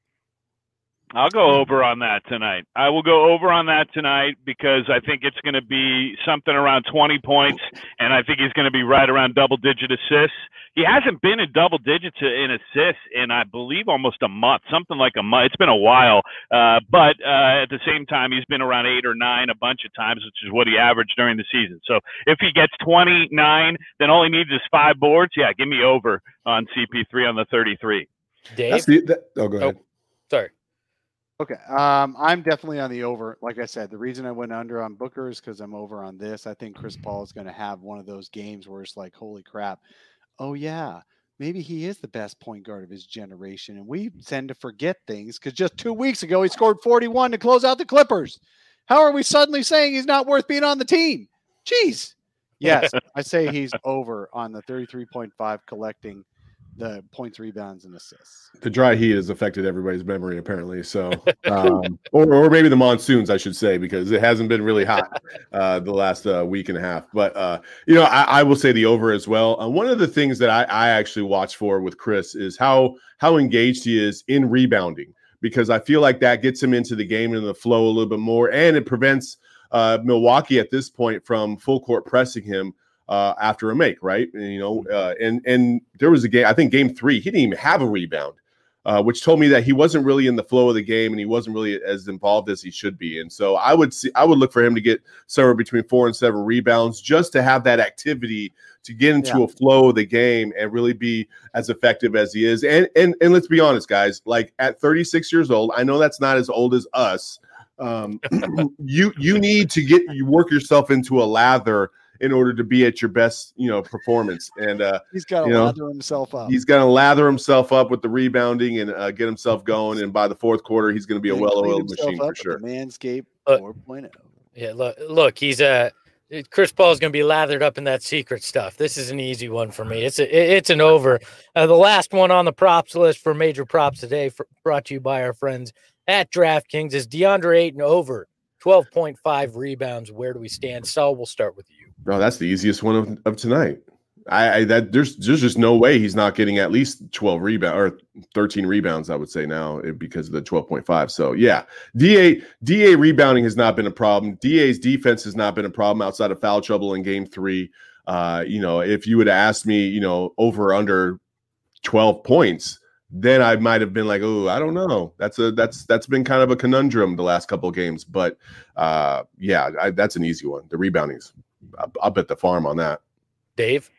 I'll go over on that tonight. I will go over on that tonight because I think it's going to be something around twenty points, and I think he's going to be right around double-digit assists. He hasn't been in double digits in assists in, I believe, almost a month, something like a month. It's been a while, uh, but uh, at the same time, he's been around eight or nine a bunch of times, which is what he averaged during the season. So if he gets twenty-nine, then all he needs is five boards. Yeah, give me over on C P three on the thirty-three. Dave? That's the, that, oh, go ahead. Oh, sorry. Okay. Um, I'm definitely on the over. Like I said, the reason I went under on Booker is because I'm over on this. I think Chris Paul is going to have one of those games where it's like, holy crap. Oh, yeah. Maybe he is the best point guard of his generation. And we tend to forget things because just two weeks ago, he scored forty-one to close out the Clippers. How are we suddenly saying he's not worth being on the team? Jeez. Yes, I say he's over on the thirty-three point five collecting the points, rebounds, and assists. The dry heat has affected everybody's memory, apparently. So, um, or, or maybe the monsoons, I should say, because it hasn't been really hot uh, the last uh, week and a half. But, uh, you know, I, I will say the over as well. Uh, one of the things that I, I actually watch for with Chris is how how engaged he is in rebounding, because I feel like that gets him into the game and the flow a little bit more, and it prevents uh, Milwaukee at this point from full court pressing him Uh, after a make, right? And, you know, uh, and and there was a game, I think game three, he didn't even have a rebound, uh, which told me that he wasn't really in the flow of the game and he wasn't really as involved as he should be. And so I would see, I would look for him to get somewhere between four and seven rebounds just to have that activity to get into Yeah. a flow of the game and really be as effective as he is. And and and let's be honest, guys, like at thirty-six years old, I know that's not as old as us. Um, you you need to get you work yourself into a lather in order to be at your best, you know, performance. And uh, He's got to you know, lather himself up. he's going to lather himself up with the rebounding and uh, get himself going. And by the fourth quarter, he's going to be a And clean well-oiled himself machine up for with sure. the Manscaped Uh, four point oh. Yeah, look, look, he's a uh, Chris Paul's going to be lathered up in that secret stuff. This is an easy one for me. It's a, it's an over. Uh, the last one on the props list for major props today, for, brought to you by our friends at DraftKings, is DeAndre Ayton over twelve point five rebounds. Where do we stand? Saul, we'll start with you. Oh, that's the easiest one of, of tonight. I, I that there's there's just no way he's not getting at least twelve rebound or thirteen rebounds, I would say now, because of the twelve point five. So yeah, D A D A rebounding has not been a problem. D A's defense has not been a problem outside of foul trouble in game three. Uh, you know, if you would have asked me, you know, over or under twelve points, then I might have been like, oh, I don't know. That's a that's that's been kind of a conundrum the last couple of games. But uh, yeah, I, that's an easy one. The reboundings, I'll, I'll bet the farm on that. Dave?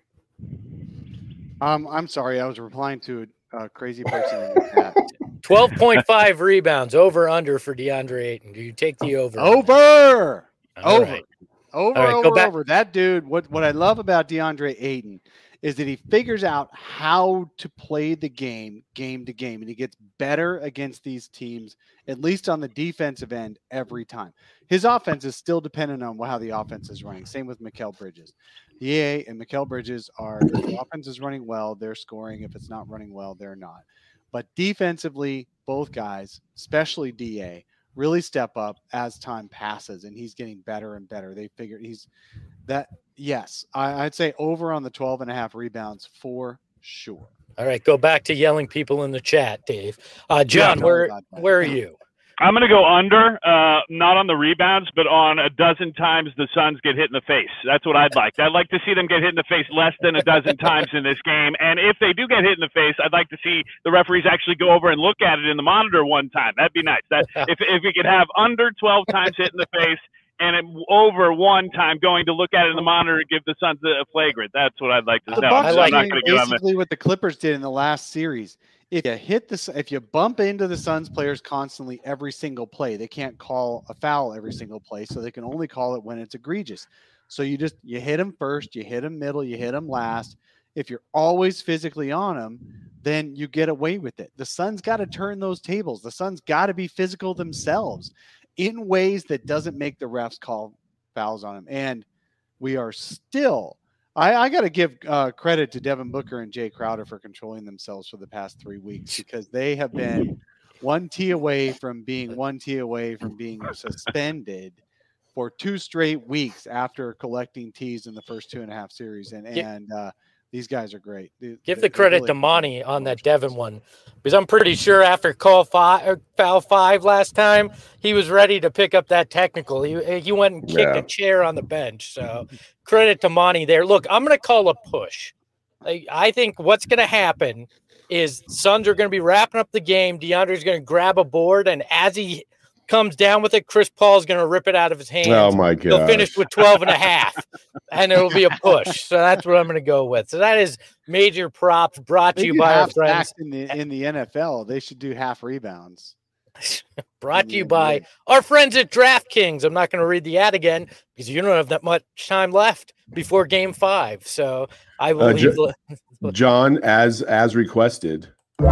Um, I'm sorry, I was replying to a, a crazy person in the chat. twelve point five rebounds, over under for DeAndre Ayton. Do you take the over? Over. All Over. right. Over, All right, go over, back- over. That dude, what, what I love about DeAndre Ayton is that he figures out how to play the game, game to game, and he gets better against these teams, at least on the defensive end, every time. His offense is still dependent on how the offense is running. Same with Mikal Bridges. D A and Mikal Bridges are, if the offense is running well, they're scoring. If it's not running well, they're not. But defensively, both guys, especially D A, really step up as time passes, and he's getting better and better. They figure he's that. Yes, I, I'd say over on the twelve and a half rebounds for sure. All right, go back to yelling people in the chat, Dave. Uh, John, Yeah, where no, where are you? I'm going to go under, uh, not on the rebounds, but on a dozen times the Suns get hit in the face. That's what I'd like. I'd like to see them get hit in the face less than a dozen times in this game. And if they do get hit in the face, I'd like to see the referees actually go over and look at it in the monitor one time. That'd be nice. That if if we could have under twelve times hit in the face and it, over one time going to look at it in the monitor and give the Suns a flagrant. That's what I'd like to The know. Bucks I'm are not doing going to get on the basically what the Clippers did in the last series. If you hit this, if you bump into the Suns players constantly every single play, they can't call a foul every single play, so they can only call it when it's egregious. So you just you hit them first, you hit them middle, you hit them last. If you're always physically on them, then you get away with it. The Suns got to turn those tables. The Suns got to be physical themselves in ways that doesn't make the refs call fouls on them. And we are still. I, I got to give uh, credit to Devin Booker and Jay Crowder for controlling themselves for the past three weeks because they have been one tee away from being one tee away from being suspended for two straight weeks after collecting tees in the first two and a half series. And and uh, these guys are great. They, Give they, the credit really to Monty on that Devin one, because I'm pretty sure after call five, or foul five last time, he was ready to pick up that technical. He he went and kicked Yeah. a chair on the bench. So credit to Monty there. Look, I'm going to call a push. I, I think what's going to happen is Suns are going to be wrapping up the game. DeAndre's going to grab a board, and as he comes down with it, Chris Paul's going to rip it out of his hands. Oh my He'll god! finish with twelve and a half, and it'll be a push. So that's what I'm going to go with. So that is major props brought to They you do by our half friends. sacks in the in the N F L. They should do half rebounds. Brought in to the you N B A. by our friends at DraftKings. I'm not going to read the ad again because you don't have that much time left before Game Five. So I will Uh, leave. Ju- the- John, as as requested.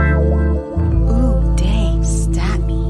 Ooh, dang, stat me.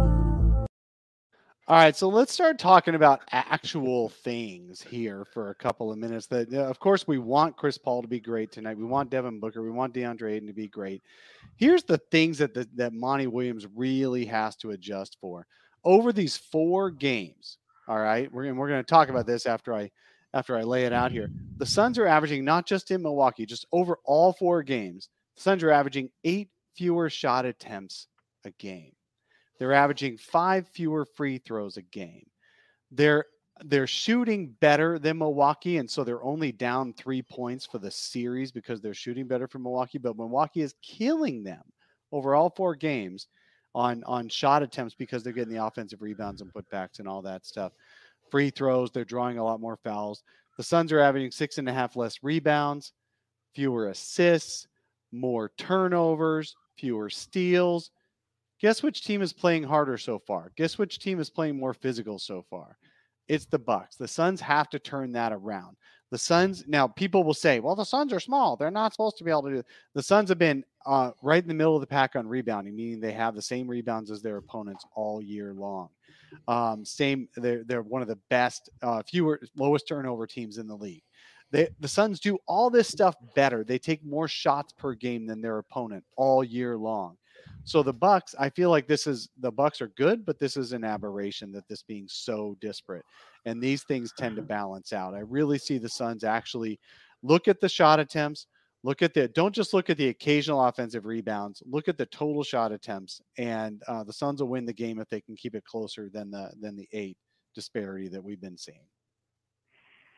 All right, so let's start talking about actual things here for a couple of minutes. That, uh, of course, we want Chris Paul to be great tonight. We want Devin Booker. We want DeAndre Ayton to be great. Here's the things that the, that Monty Williams really has to adjust for over these four games. All right, we're gonna, we're going to talk about this after I after I lay it out here. The Suns are averaging, not just in Milwaukee, just over all four games. The Suns are averaging eight fewer shot attempts a game. They're averaging five fewer free throws a game. They're they're shooting better than Milwaukee, and so they're only down three points for the series because they're shooting better for Milwaukee. But Milwaukee is killing them over all four games on on shot attempts because they're getting the offensive rebounds and putbacks and all that stuff. Free throws, they're drawing a lot more fouls. The Suns are averaging six and a half less rebounds, fewer assists, more turnovers, fewer steals. Guess which team is playing harder so far? Guess which team is playing more physical so far? It's the Bucks. The Suns have to turn that around. The Suns, now people will say, well, the Suns are small. They're not supposed to be able to do it. The Suns have been uh, right in the middle of the pack on rebounding, meaning they have the same rebounds as their opponents all year long. Um, same, they're, they're one of the best, uh, fewer, lowest turnover teams in the league. They, the Suns do all this stuff better. They take more shots per game than their opponent all year long. So the Bucks, I feel like this is the Bucks are good, but this is an aberration that this being so disparate. And these things tend to balance out. I really see the Suns actually look at the shot attempts, look at the, don't just look at the occasional offensive rebounds, look at the total shot attempts. And uh, the Suns will win the game if they can keep it closer than the, than the eight disparity that we've been seeing.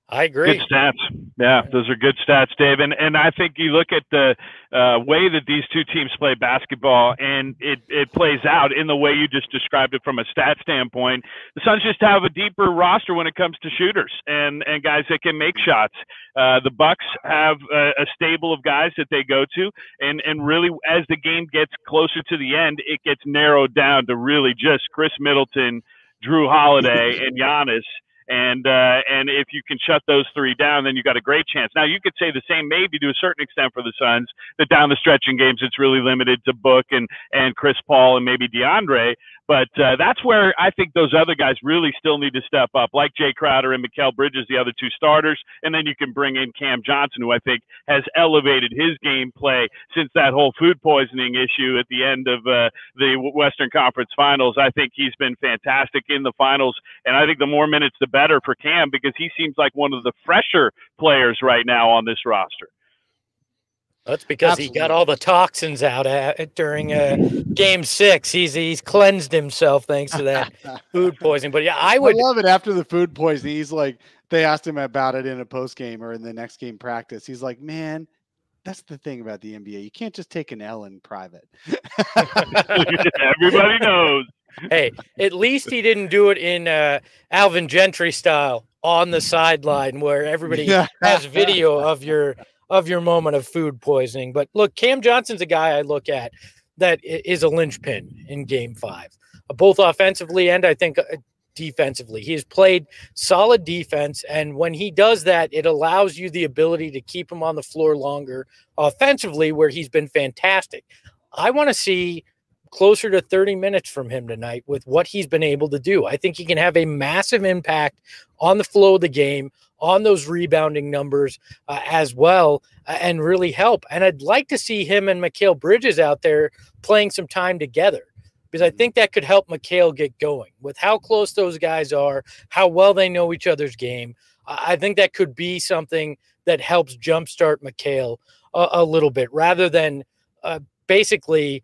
I agree. Good stats. Yeah, those are good stats, Dave. And and I think you look at the uh, way that these two teams play basketball, and it, it plays out in the way you just described it from a stat standpoint. The Suns just have a deeper roster when it comes to shooters and, and guys that can make shots. Uh, the Bucks have a, a stable of guys that they go to, and, and really as the game gets closer to the end, it gets narrowed down to really just Chris Middleton, Drew Holiday, and Giannis. And uh, and if you can shut those three down, then you got a great chance. Now, you could say the same maybe to a certain extent for the Suns, that down the stretch in games, it's really limited to Book and, and Chris Paul and maybe DeAndre. But uh, that's where I think those other guys really still need to step up, like Jay Crowder and Mikal Bridges, the other two starters. And then you can bring in Cam Johnson, who I think has elevated his gameplay since that whole food poisoning issue at the end of uh, the Western Conference Finals. I think he's been fantastic in the finals. And I think the more minutes, the better for Cam, because he seems like one of the fresher players right now on this roster. That's because Absolutely. he got all the toxins out at, during uh, game six. He's he's cleansed himself thanks to that food poisoning. But yeah, I would I love it after the food poisoning. He's like, they asked him about it in a post game or in the next game practice. He's like, man, that's the thing about the N B A. You can't just take an L in private. Everybody knows. Hey, at least he didn't do it in uh, Alvin Gentry style on the sideline where everybody has video of your of your moment of food poisoning. But look, Cam Johnson's a guy I look at that is a linchpin in game five, both offensively and I think defensively. He has played solid defense, and when he does that, it allows you the ability to keep him on the floor longer offensively, where he's been fantastic. I want to see closer to thirty minutes from him tonight with what he's been able to do. I think he can have a massive impact on the flow of the game, on those rebounding numbers uh, as well, uh, and really help. And I'd like to see him and Mikal Bridges out there playing some time together, because I think that could help Mikal get going with how close those guys are, how well they know each other's game. Uh, I think that could be something that helps jumpstart Mikal a, a little bit, rather than uh, basically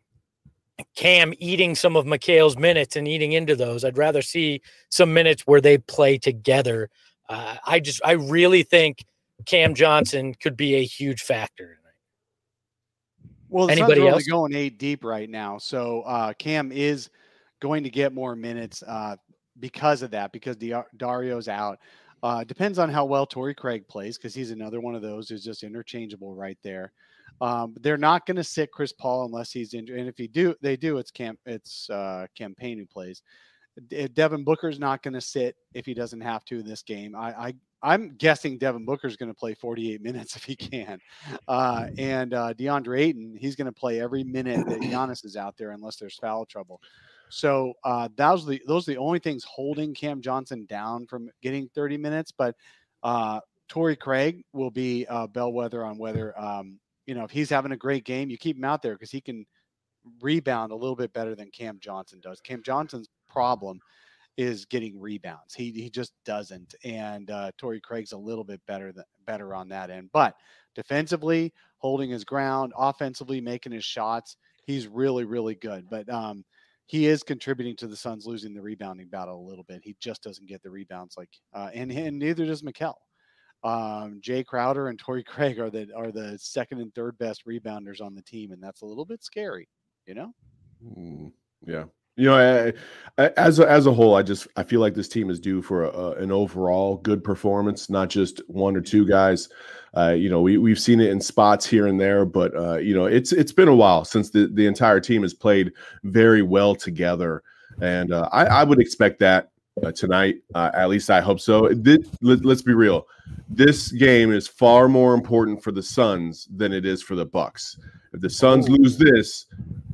Cam eating some of Mikal's minutes and eating into those. I'd rather see some minutes where they play together. Uh, I just, I really think Cam Johnson could be a huge factor tonight. Well, the Anybody Suns are else? only going eight deep right now, so uh, Cam is going to get more minutes uh, because of that, because Di- Dario's out. Uh, depends on how well Torrey Craig plays, because he's another one of those who's just interchangeable right there. Um, they're not going to sit Chris Paul unless he's injured, and if he do, they do. It's Cam, it's uh, Campaign who plays. Devin Booker's not going to sit if he doesn't have to in this game. I, I I'm guessing Devin Booker's going to play forty-eight minutes if he can, uh, and uh, DeAndre Ayton, he's going to play every minute that Giannis is out there unless there's foul trouble. So uh, those are the those are the only things holding Cam Johnson down from getting thirty minutes. But uh, Torrey Craig will be a bellwether on whether um, you know if he's having a great game, you keep him out there because he can rebound a little bit better than Cam Johnson does. Cam Johnson's problem is getting rebounds. He he just doesn't. And uh, Torrey Craig's a little bit better than, better on that end. But defensively, holding his ground, offensively, making his shots, he's really, really good. But um, he is contributing to the Suns losing the rebounding battle a little bit. He just doesn't get the rebounds like, uh, and, and neither does Mikal. Um, Jay Crowder and Torrey Craig are the are the second and third best rebounders on the team, and that's a little bit scary, you know. Mm, yeah. You know, I, I, as a, as a whole, I just I feel like this team is due for a, an overall good performance, not just one or two guys. Uh, you know, we we've seen it in spots here and there, but uh, you know, it's it's been a while since the, the entire team has played very well together, and uh, I, I would expect that uh, tonight. Uh, at least I hope so. This, let, let's be real. This game is far more important for the Suns than it is for the Bucks. If the Suns lose this,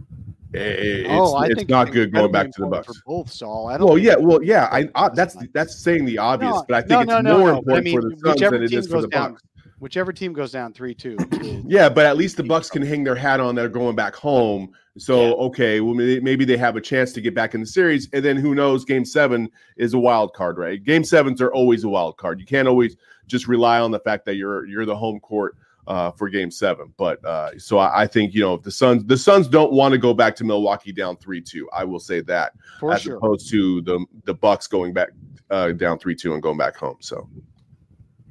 It's, oh, I it's think not it's good going back to the Bucks. For both, Saul. I don't well, think yeah, well, yeah. I, I that's that's saying the obvious, no, but I think no, it's no, no, more no. important I mean, for the Suns than it is for the down, Bucks. Whichever team goes down three two. Yeah, but at least the Bucks can hang their hat on. They're going back home. So yeah. okay, well maybe they have a chance to get back in the series, and then who knows? Game seven is a wild card, right? Game sevens are always a wild card. You can't always just rely on the fact that you're you're the home court uh, for Game Seven. But uh, so I, I think you know if the Suns the Suns don't want to go back to Milwaukee down three two. I will say that for as sure. opposed to the the Bucks going back uh, down three two and going back home. So.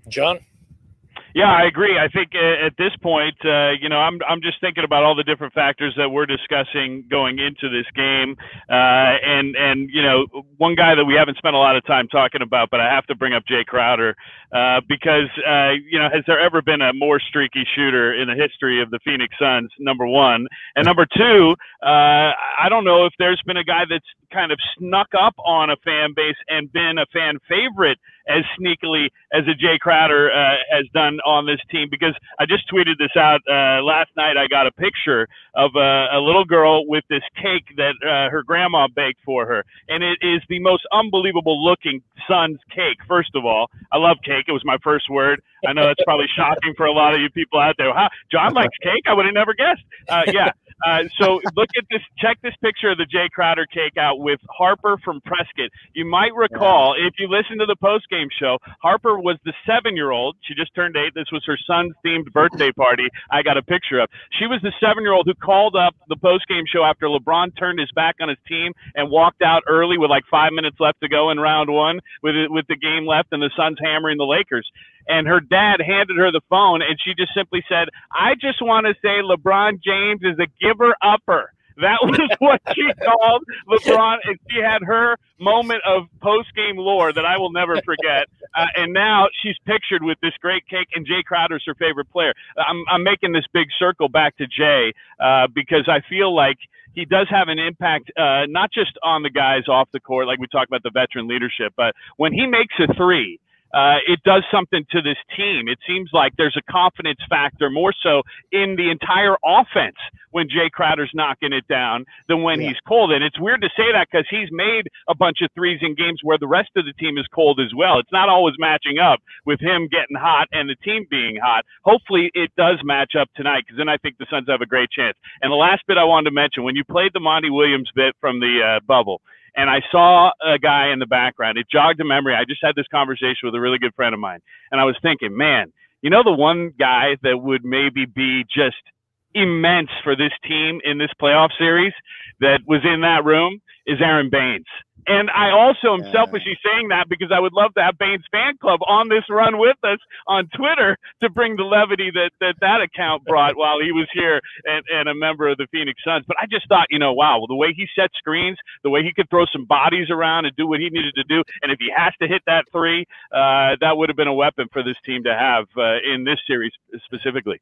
John? Yeah, I agree. I think uh, at this point, uh, you know, I'm I'm just thinking about all the different factors that we're discussing going into this game, uh, and and you know, one guy that we haven't spent a lot of time talking about, but I have to bring up Jay Crowder uh, because uh, you know, has there ever been a more streaky shooter in the history of the Phoenix Suns? Number one, and number two, uh, I don't know if there's been a guy that's kind of snuck up on a fan base and been a fan favorite as sneakily as a Jay Crowder uh, has done on this team, because I just tweeted this out uh, last night. I got a picture of a, a little girl with this cake that uh, her grandma baked for her, and it is the most unbelievable looking Suns cake. First of all, I love cake. It was my first word. I know that's probably shocking for a lot of you people out there. How, John likes cake? I would have never guessed. Uh, yeah. Uh, so look at this, check this picture of the Jay Crowder cake out with Harper from Prescott. You might recall, if you listen to the postgame show, Harper was the seven-year-old. She just turned eight. This was her son's themed birthday party I got a picture of. She was the seven-year-old who called up the postgame show after LeBron turned his back on his team and walked out early with like five minutes left to go in round one with it, with the game left and the Suns hammering the Lakers. And her dad handed her the phone, and she just simply said, I just want to say LeBron James is a giver-upper. That was what she called LeBron, and she had her moment of post-game lore that I will never forget. Uh, and now she's pictured with this great cake, and Jay Crowder's her favorite player. I'm, I'm making this big circle back to Jay uh, because I feel like he does have an impact, uh, not just on the guys off the court, like we talked about the veteran leadership, but when he makes a three, Uh, it does something to this team. It seems like there's a confidence factor more so in the entire offense when Jay Crowder's knocking it down than when yeah. he's cold. And it's weird to say that because he's made a bunch of threes in games where the rest of the team is cold as well. It's not always matching up with him getting hot and the team being hot. Hopefully it does match up tonight, because then I think the Suns have a great chance. And the last bit I wanted to mention, when you played the Monty Williams bit from the uh, bubble, and I saw a guy in the background, it jogged a memory. I just had this conversation with a really good friend of mine, and I was thinking, man, you know, the one guy that would maybe be just immense for this team in this playoff series that was in that room is Aaron Baines. And I also am yeah. selfishly saying that because I would love to have Baines fan club on this run with us on Twitter to bring the levity that that, that account brought while he was here and, and a member of the Phoenix Suns. But I just thought, you know, wow, well, the way he set screens, the way he could throw some bodies around and do what he needed to do. And if he has to hit that three, uh, that would have been a weapon for this team to have uh, in this series specifically.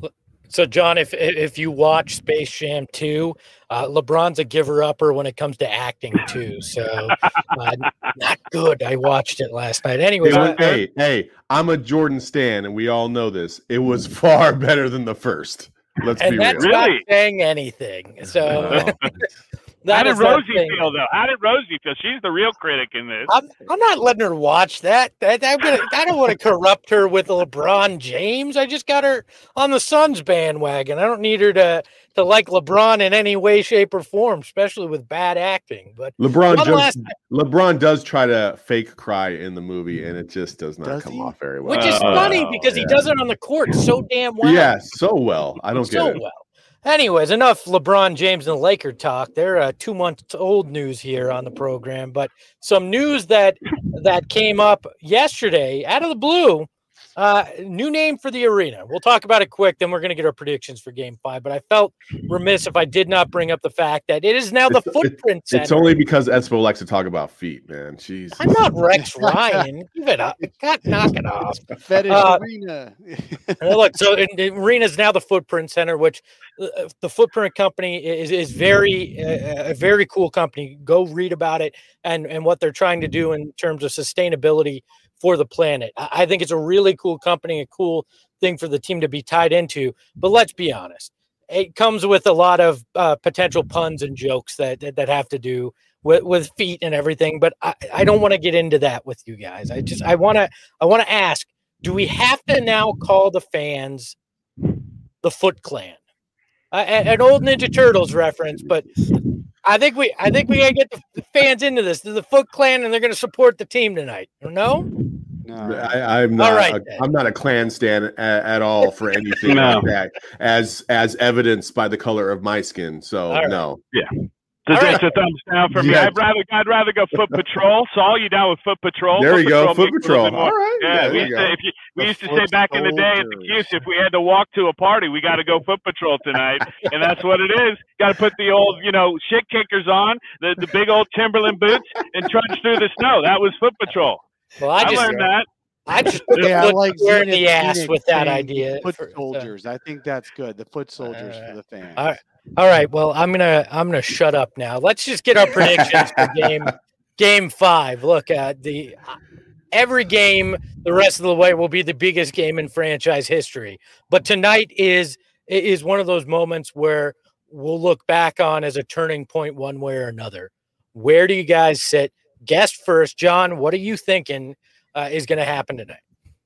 So, John, if if you watch Space Jam two, uh, LeBron's a giver-upper when it comes to acting, too. So, uh, not good. I watched it last night. Anyways. Hey, hey, hey, I'm a Jordan stan, and we all know this. It was far better than the first. Let's and be that's real. not Really? saying anything. So, How that did is not Rosie saying- feel, though? How did Rosie feel? She's the real critic in this. I'm, I'm not letting her watch that. that I'm gonna, I don't want to corrupt her with LeBron James. I just got her on the Suns bandwagon. I don't need her to to like LeBron in any way, shape, or form, especially with bad acting. But LeBron one just, last- LeBron does try to fake cry in the movie, and it just does not Does come he? off very well. which is Uh, funny because he yeah. does it on the court so damn well. Yeah, so well. I don't so get it. well. Anyways, enough LeBron James and Laker talk. They're uh, two months old news here on the program, but some news that that came up yesterday out of the blue. Uh, new name for the arena. We'll talk about it quick, then we're going to get our predictions for Game Five. But I felt remiss if I did not bring up the fact that it is now the It's- Footprint Center. It's only because Espo likes to talk about feet, man. Jeez. I'm not Rex Ryan. Give it up. God, knock it off. Fetish Uh, arena. Uh, Look, so in- the arena is now the Footprint Center, which uh, the Footprint Company is is very uh, a very cool company. Go read about it and and what they're trying to do in terms of sustainability for the planet. I I think it's a really cool company, a cool thing for the team to be tied into. But let's be honest, it comes with a lot of uh, potential puns and jokes that that, that have to do with, with feet and everything. But I, I don't want to get into that with you guys. I just I want to I want to ask. Do we have to now call the fans the Foot Clan? Uh, an old Ninja Turtles reference, but I think we I think we gotta get the fans into this. They're the Foot Clan, and they're going to support the team tonight. No, No. I, I'm not. All right, a, then. I'm not a Klan stan at, at all for anything No. like that, as as evidenced by the color of my skin. So All right. no. So All that's right. a thumbs down for me. Yeah. I'd rather I'd rather go Foot Patrol. Saul, you down with Foot Patrol? There Foot you go, Patrol Foot makes a little Patrol. bit more- All right. Yeah, Yeah, we there used you to, go. if you, we The used to foot say back in the day at the soldiers. Cuse, if we had to walk to a party, we got to go Foot Patrol tonight, and that's what it is. Got to put the old, you know, shit kickers on, the the big old Timberland boots, and trudge through the snow. That was Foot Patrol. Well, I I, just learned that. I just put Yeah, a I foot like square in Zenith the ass Phoenix with that saying idea. Foot for- so- soldiers. I think that's good. The foot soldiers for the fans. All right. All right. Well, I'm gonna I'm gonna shut up now. Let's just get our predictions for game game five. Look at the every game the rest of the way will be the biggest game in franchise history. But tonight is is one of those moments where we'll look back on as a turning point one way or another. Where do you guys sit? Guest first, John. What are you thinking uh, is going to happen tonight?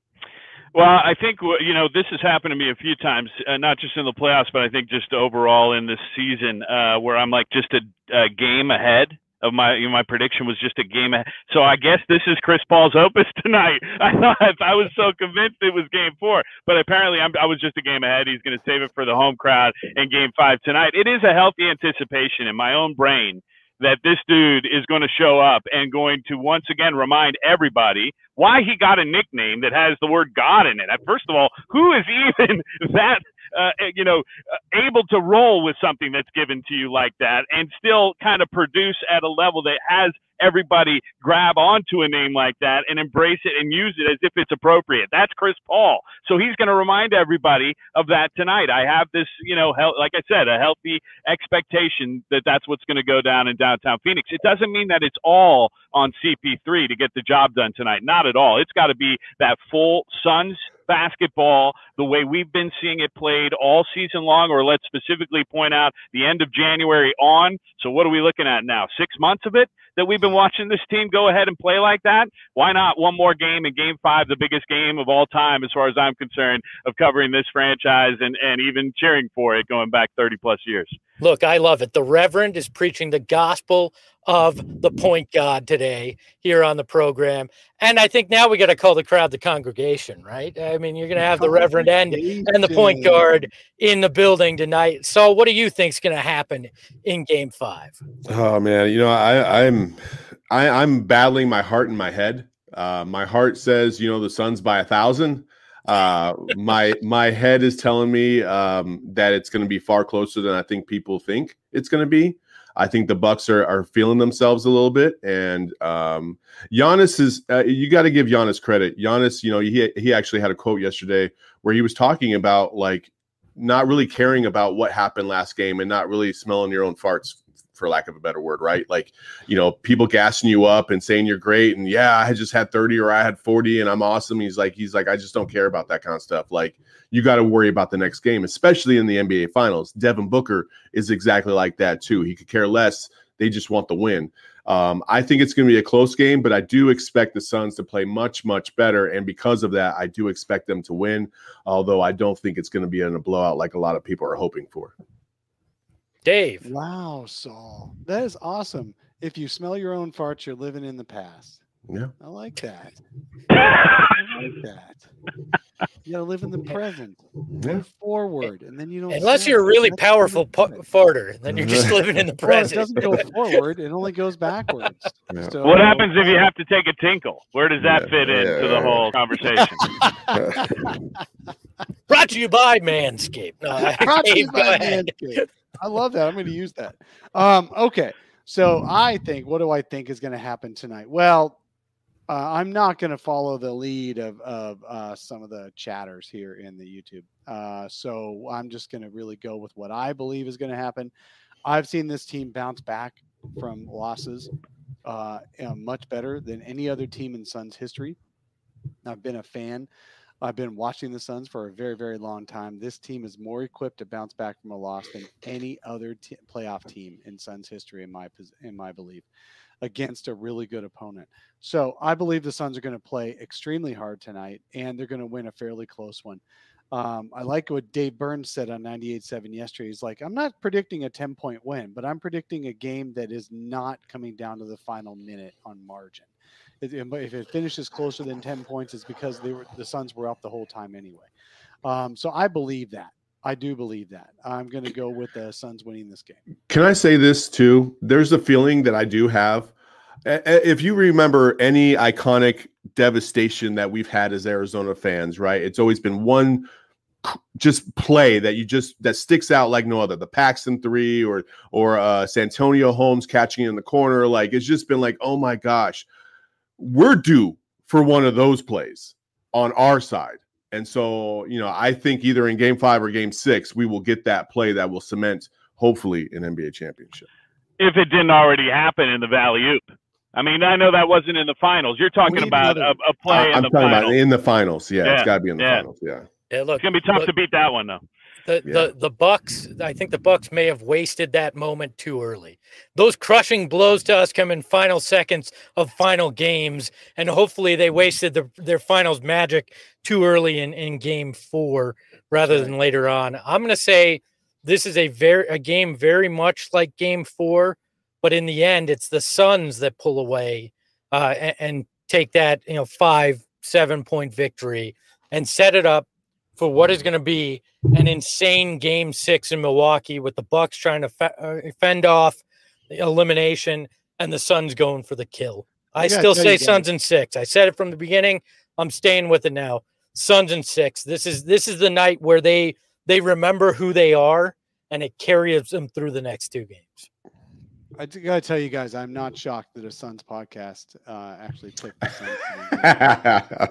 Well, I think, you know, this has happened to me a few times, uh, not just in the playoffs, but I think just overall in this season, uh, where I'm like just a, a game ahead of my, you know, my prediction was just a game ahead. So I guess this is Chris Paul's opus tonight. I thought I was so convinced it was game four, but apparently I'm, I was just a game ahead. He's going to save it for the home crowd in game five tonight. It is a healthy anticipation in my own brain that this dude is going to show up and going to once again remind everybody why he got a nickname that has the word God in it. First of all, who is even that, uh, you know, able to roll with something that's given to you like that and still kind of produce at a level that has everybody grab onto a name like that and embrace it and use it as if it's appropriate? That's Chris Paul. So he's going to remind everybody of that tonight. I have this, you know, he- like I said, a healthy expectation that that's what's going to go down in downtown Phoenix. It doesn't mean that it's all on C P three to get the job done tonight. Not at all. It's got to be that full Suns basketball, the way we've been seeing it played all season long, or let's specifically point out the end of January on. So what are we looking at now? Six months of it that we've been watching this team go ahead and play like that? Why not one more game in game five, the biggest game of all time, as far as I'm concerned, of covering this franchise and, and even cheering for it going back thirty plus years. Look, I love it. The Reverend is preaching the gospel of the point God today here on the program. And I think now we got to call the crowd the congregation, right? I mean, you're going to have the Reverend and, and the point guard in the building tonight. So what do you think is going to happen in game five? Oh man, you know, I, I'm I, I'm battling my heart and my head. Uh, my heart says, you know, the Suns by a thousand. Uh, my my head is telling me um, that it's going to be far closer than I think people think it's going to be. I think the Bucks are are feeling themselves a little bit, and um, Giannis is. Uh, you got to give Giannis credit. Giannis, you know, he he actually had a quote yesterday where he was talking about like not really caring about what happened last game and not really smelling your own farts, for lack of a better word, right? Like, you know, people gassing you up and saying you're great and yeah, I had just had thirty or I had forty and I'm awesome. He's like, he's like, I just don't care about that kind of stuff. Like, you got to worry about the next game, especially in the N B A Finals. Devin Booker is exactly like that too. He could care less. They just want the win. Um, I think it's going to be a close game, but I do expect the Suns to play much, much better. And because of that, I do expect them to win, although I don't think it's going to be in a blowout like a lot of people are hoping for. Dave. Wow, Saul. That is awesome. If you smell your own farts, you're living in the past. Yeah. I like that. I like that. You gotta live in the present. Yeah. Move forward, and then you don't. Unless smell you're a it. really That's powerful really pu- good. farter, then you're just living in the Well, it present. doesn't go forward; it only goes backwards. Yeah. So, What happens if you have to take a tinkle? Where does that Yeah, fit into yeah, the yeah. whole conversation? Brought to you by Manscaped. No, Brought to you Dave, go by ahead. Manscaped. I love that. I'm going to use that. Um, okay. So I think, what do I think is going to happen tonight? Well, uh, I'm not going to follow the lead of, of uh, some of the chatters here in the YouTube. Uh, so I'm just going to really go with what I believe is going to happen. I've seen this team bounce back from losses uh, uh, much better than any other team in Suns history. I've been a fan. I've been watching the Suns for a very, very long time. This team is more equipped to bounce back from a loss than any other t- playoff team in Suns history, in my pos- in my belief, against a really good opponent. So I believe the Suns are going to play extremely hard tonight, and they're going to win a fairly close one. Um, I like what Dave Burns said on ninety-eight point seven yesterday. He's like, I'm not predicting a ten-point win, but I'm predicting a game that is not coming down to the final minute on margin. If it finishes closer than ten points, it's because they were the Suns were up the whole time anyway. Um, so I believe that. I do believe that. I'm going to go with the Suns winning this game. Can I say this too? There's a feeling that I do have. If you remember any iconic devastation that we've had as Arizona fans, right? It's always been one just play that you just that sticks out like no other. The Paxton three or or uh, Santonio Holmes catching in the corner. Like it's just been like, oh my gosh, we're due for one of those plays on our side. And so, you know, I think either in game five or game six, we will get that play that will cement, hopefully, an N B A championship. If it didn't already happen in the Valley-Oop. I mean, I know that wasn't in the finals. You're talking about a, a play uh, in I'm the talking finals. about in the finals. Yeah, yeah. It's got to be in the yeah. finals. Yeah. Yeah, look, it's going to be tough look, to beat that one, though. The, yeah. the the Bucks, I think the Bucks may have wasted that moment too early. Those crushing blows to us come in final seconds of final games, and hopefully they wasted the, their finals magic too early in, in game four rather than later on. I'm going to say this is a very a game very much like game four, but in the end, it's the Suns that pull away uh, and, and take that you know five, seven point victory and set it up for what is going to be an insane game six in Milwaukee with the Bucks trying to fe- uh, fend off the elimination and the Suns going for the kill. I, I still say Suns in six. I said it from the beginning. I'm staying with it now. Suns in six. This is this is the night where they they remember who they are, and it carries them through the next two games. I got to tell you guys, I'm not shocked that a Suns podcast uh, actually picked the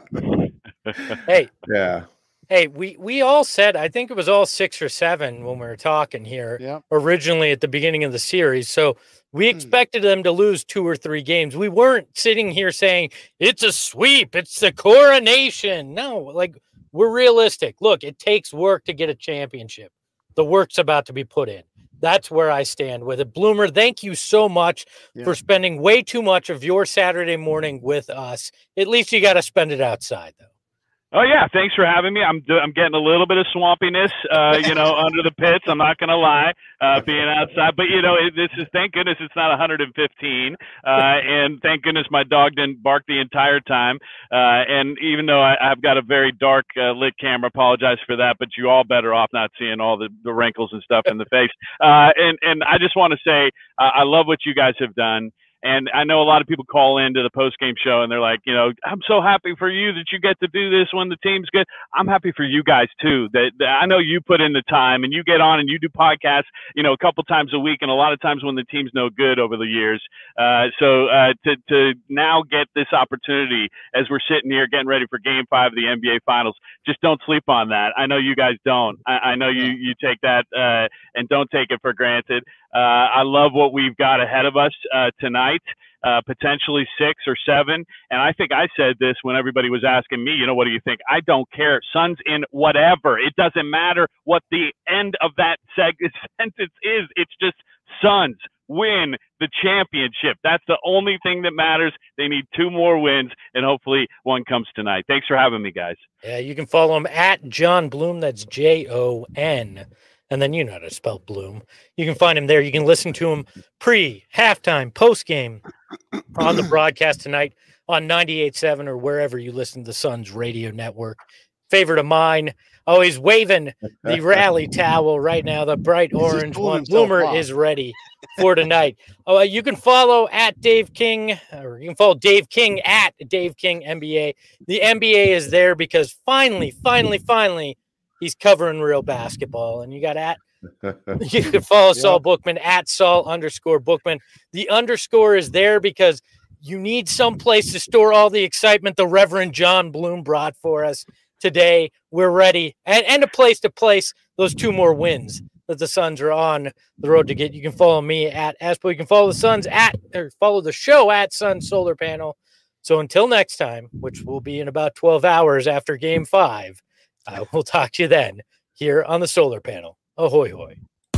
Suns. Hey, yeah. Hey, we, we all said, I think it was all six or seven when we were talking here yep. originally at the beginning of the series. So we expected them to lose two or three games. We weren't sitting here saying it's a sweep. It's the coronation. No, like we're realistic. Look, it takes work to get a championship. The work's about to be put in. That's where I stand with it. Bloomer, thank you so much yeah. for spending way too much of your Saturday morning with us. At least you got to spend it outside, though. Oh yeah, thanks for having me. I'm I'm getting a little bit of swampiness, uh, you know, under the pits. I'm not gonna lie, uh, being outside. But you know, it, this is thank goodness it's not one hundred fifteen, uh, and thank goodness my dog didn't bark the entire time. Uh, and even though I, I've got a very dark uh, lit camera, apologize for that. But you all better off not seeing all the, the wrinkles and stuff in the face. Uh, and and I just want to say uh, I love what you guys have done. And I know a lot of people call into the post-game show and they're like, you know, I'm so happy for you that you get to do this when the team's good. I'm happy for you guys too. That, that I know you put in the time and you get on and you do podcasts, you know, a couple times a week and a lot of times when the team's no good over the years. Uh, so uh, to to now get this opportunity as we're sitting here getting ready for Game Five of the N B A Finals, just don't sleep on that. I know you guys don't. I, I know you you take that uh, and don't take it for granted. Uh, I love what we've got ahead of us uh, tonight, uh, potentially six or seven. And I think I said this when everybody was asking me, you know, what do you think? I don't care. Suns in whatever. It doesn't matter what the end of that seg- sentence is. It's just Suns win the championship. That's the only thing that matters. They need two more wins, and hopefully one comes tonight. Thanks for having me, guys. Yeah, you can follow him at Jon Bloom. That's J O N. And then you know how to spell Bloom. You can find him there. You can listen to him pre, halftime, post-game on the broadcast tonight on ninety-eight point seven or wherever you listen to the Suns radio network. Favorite of mine, always waving the rally towel right now, the bright orange one. Bloomer off. Is ready for tonight. Oh, uh, you can follow at Dave King, or you can follow Dave King at Dave King N B A. The N B A is there because finally, finally, finally, he's covering real basketball. And you got at, you can follow yep. Saul Bookman at Saul underscore Bookman. The underscore is there because you need some place to store all the excitement the Reverend Jon Bloom brought for us today. We're ready. And, and a place to place those two more wins that the Suns are on the road to get. You can follow me at Aspo. You can follow the Suns at, or follow the show at Sun Solar Panel. So until next time, which will be in about twelve hours after game five, Uh, we'll talk to you then here on the Solar Panel. Ahoy, hoy.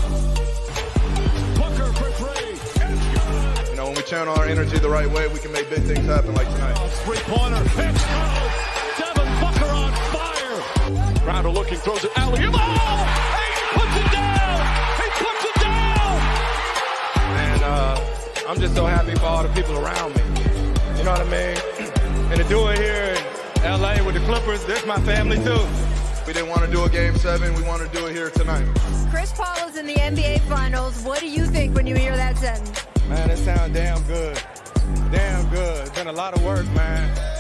You know, when we channel our energy the right way, we can make big things happen like tonight. Three-pointer. Hits. Oh, Devin Booker on fire. Crowder looking, throws it. Alley. Oh! He puts it down. He puts it down. And uh, I'm just so happy for all the people around me. You know what I mean? And to do it here in L A with the Clippers, that's my family too. We didn't want to do a game seven. We want to do it here tonight. Chris Paul is in the N B A Finals. What do you think when you hear that sentence? Man, it sounds damn good. Damn good. It's been a lot of work, man.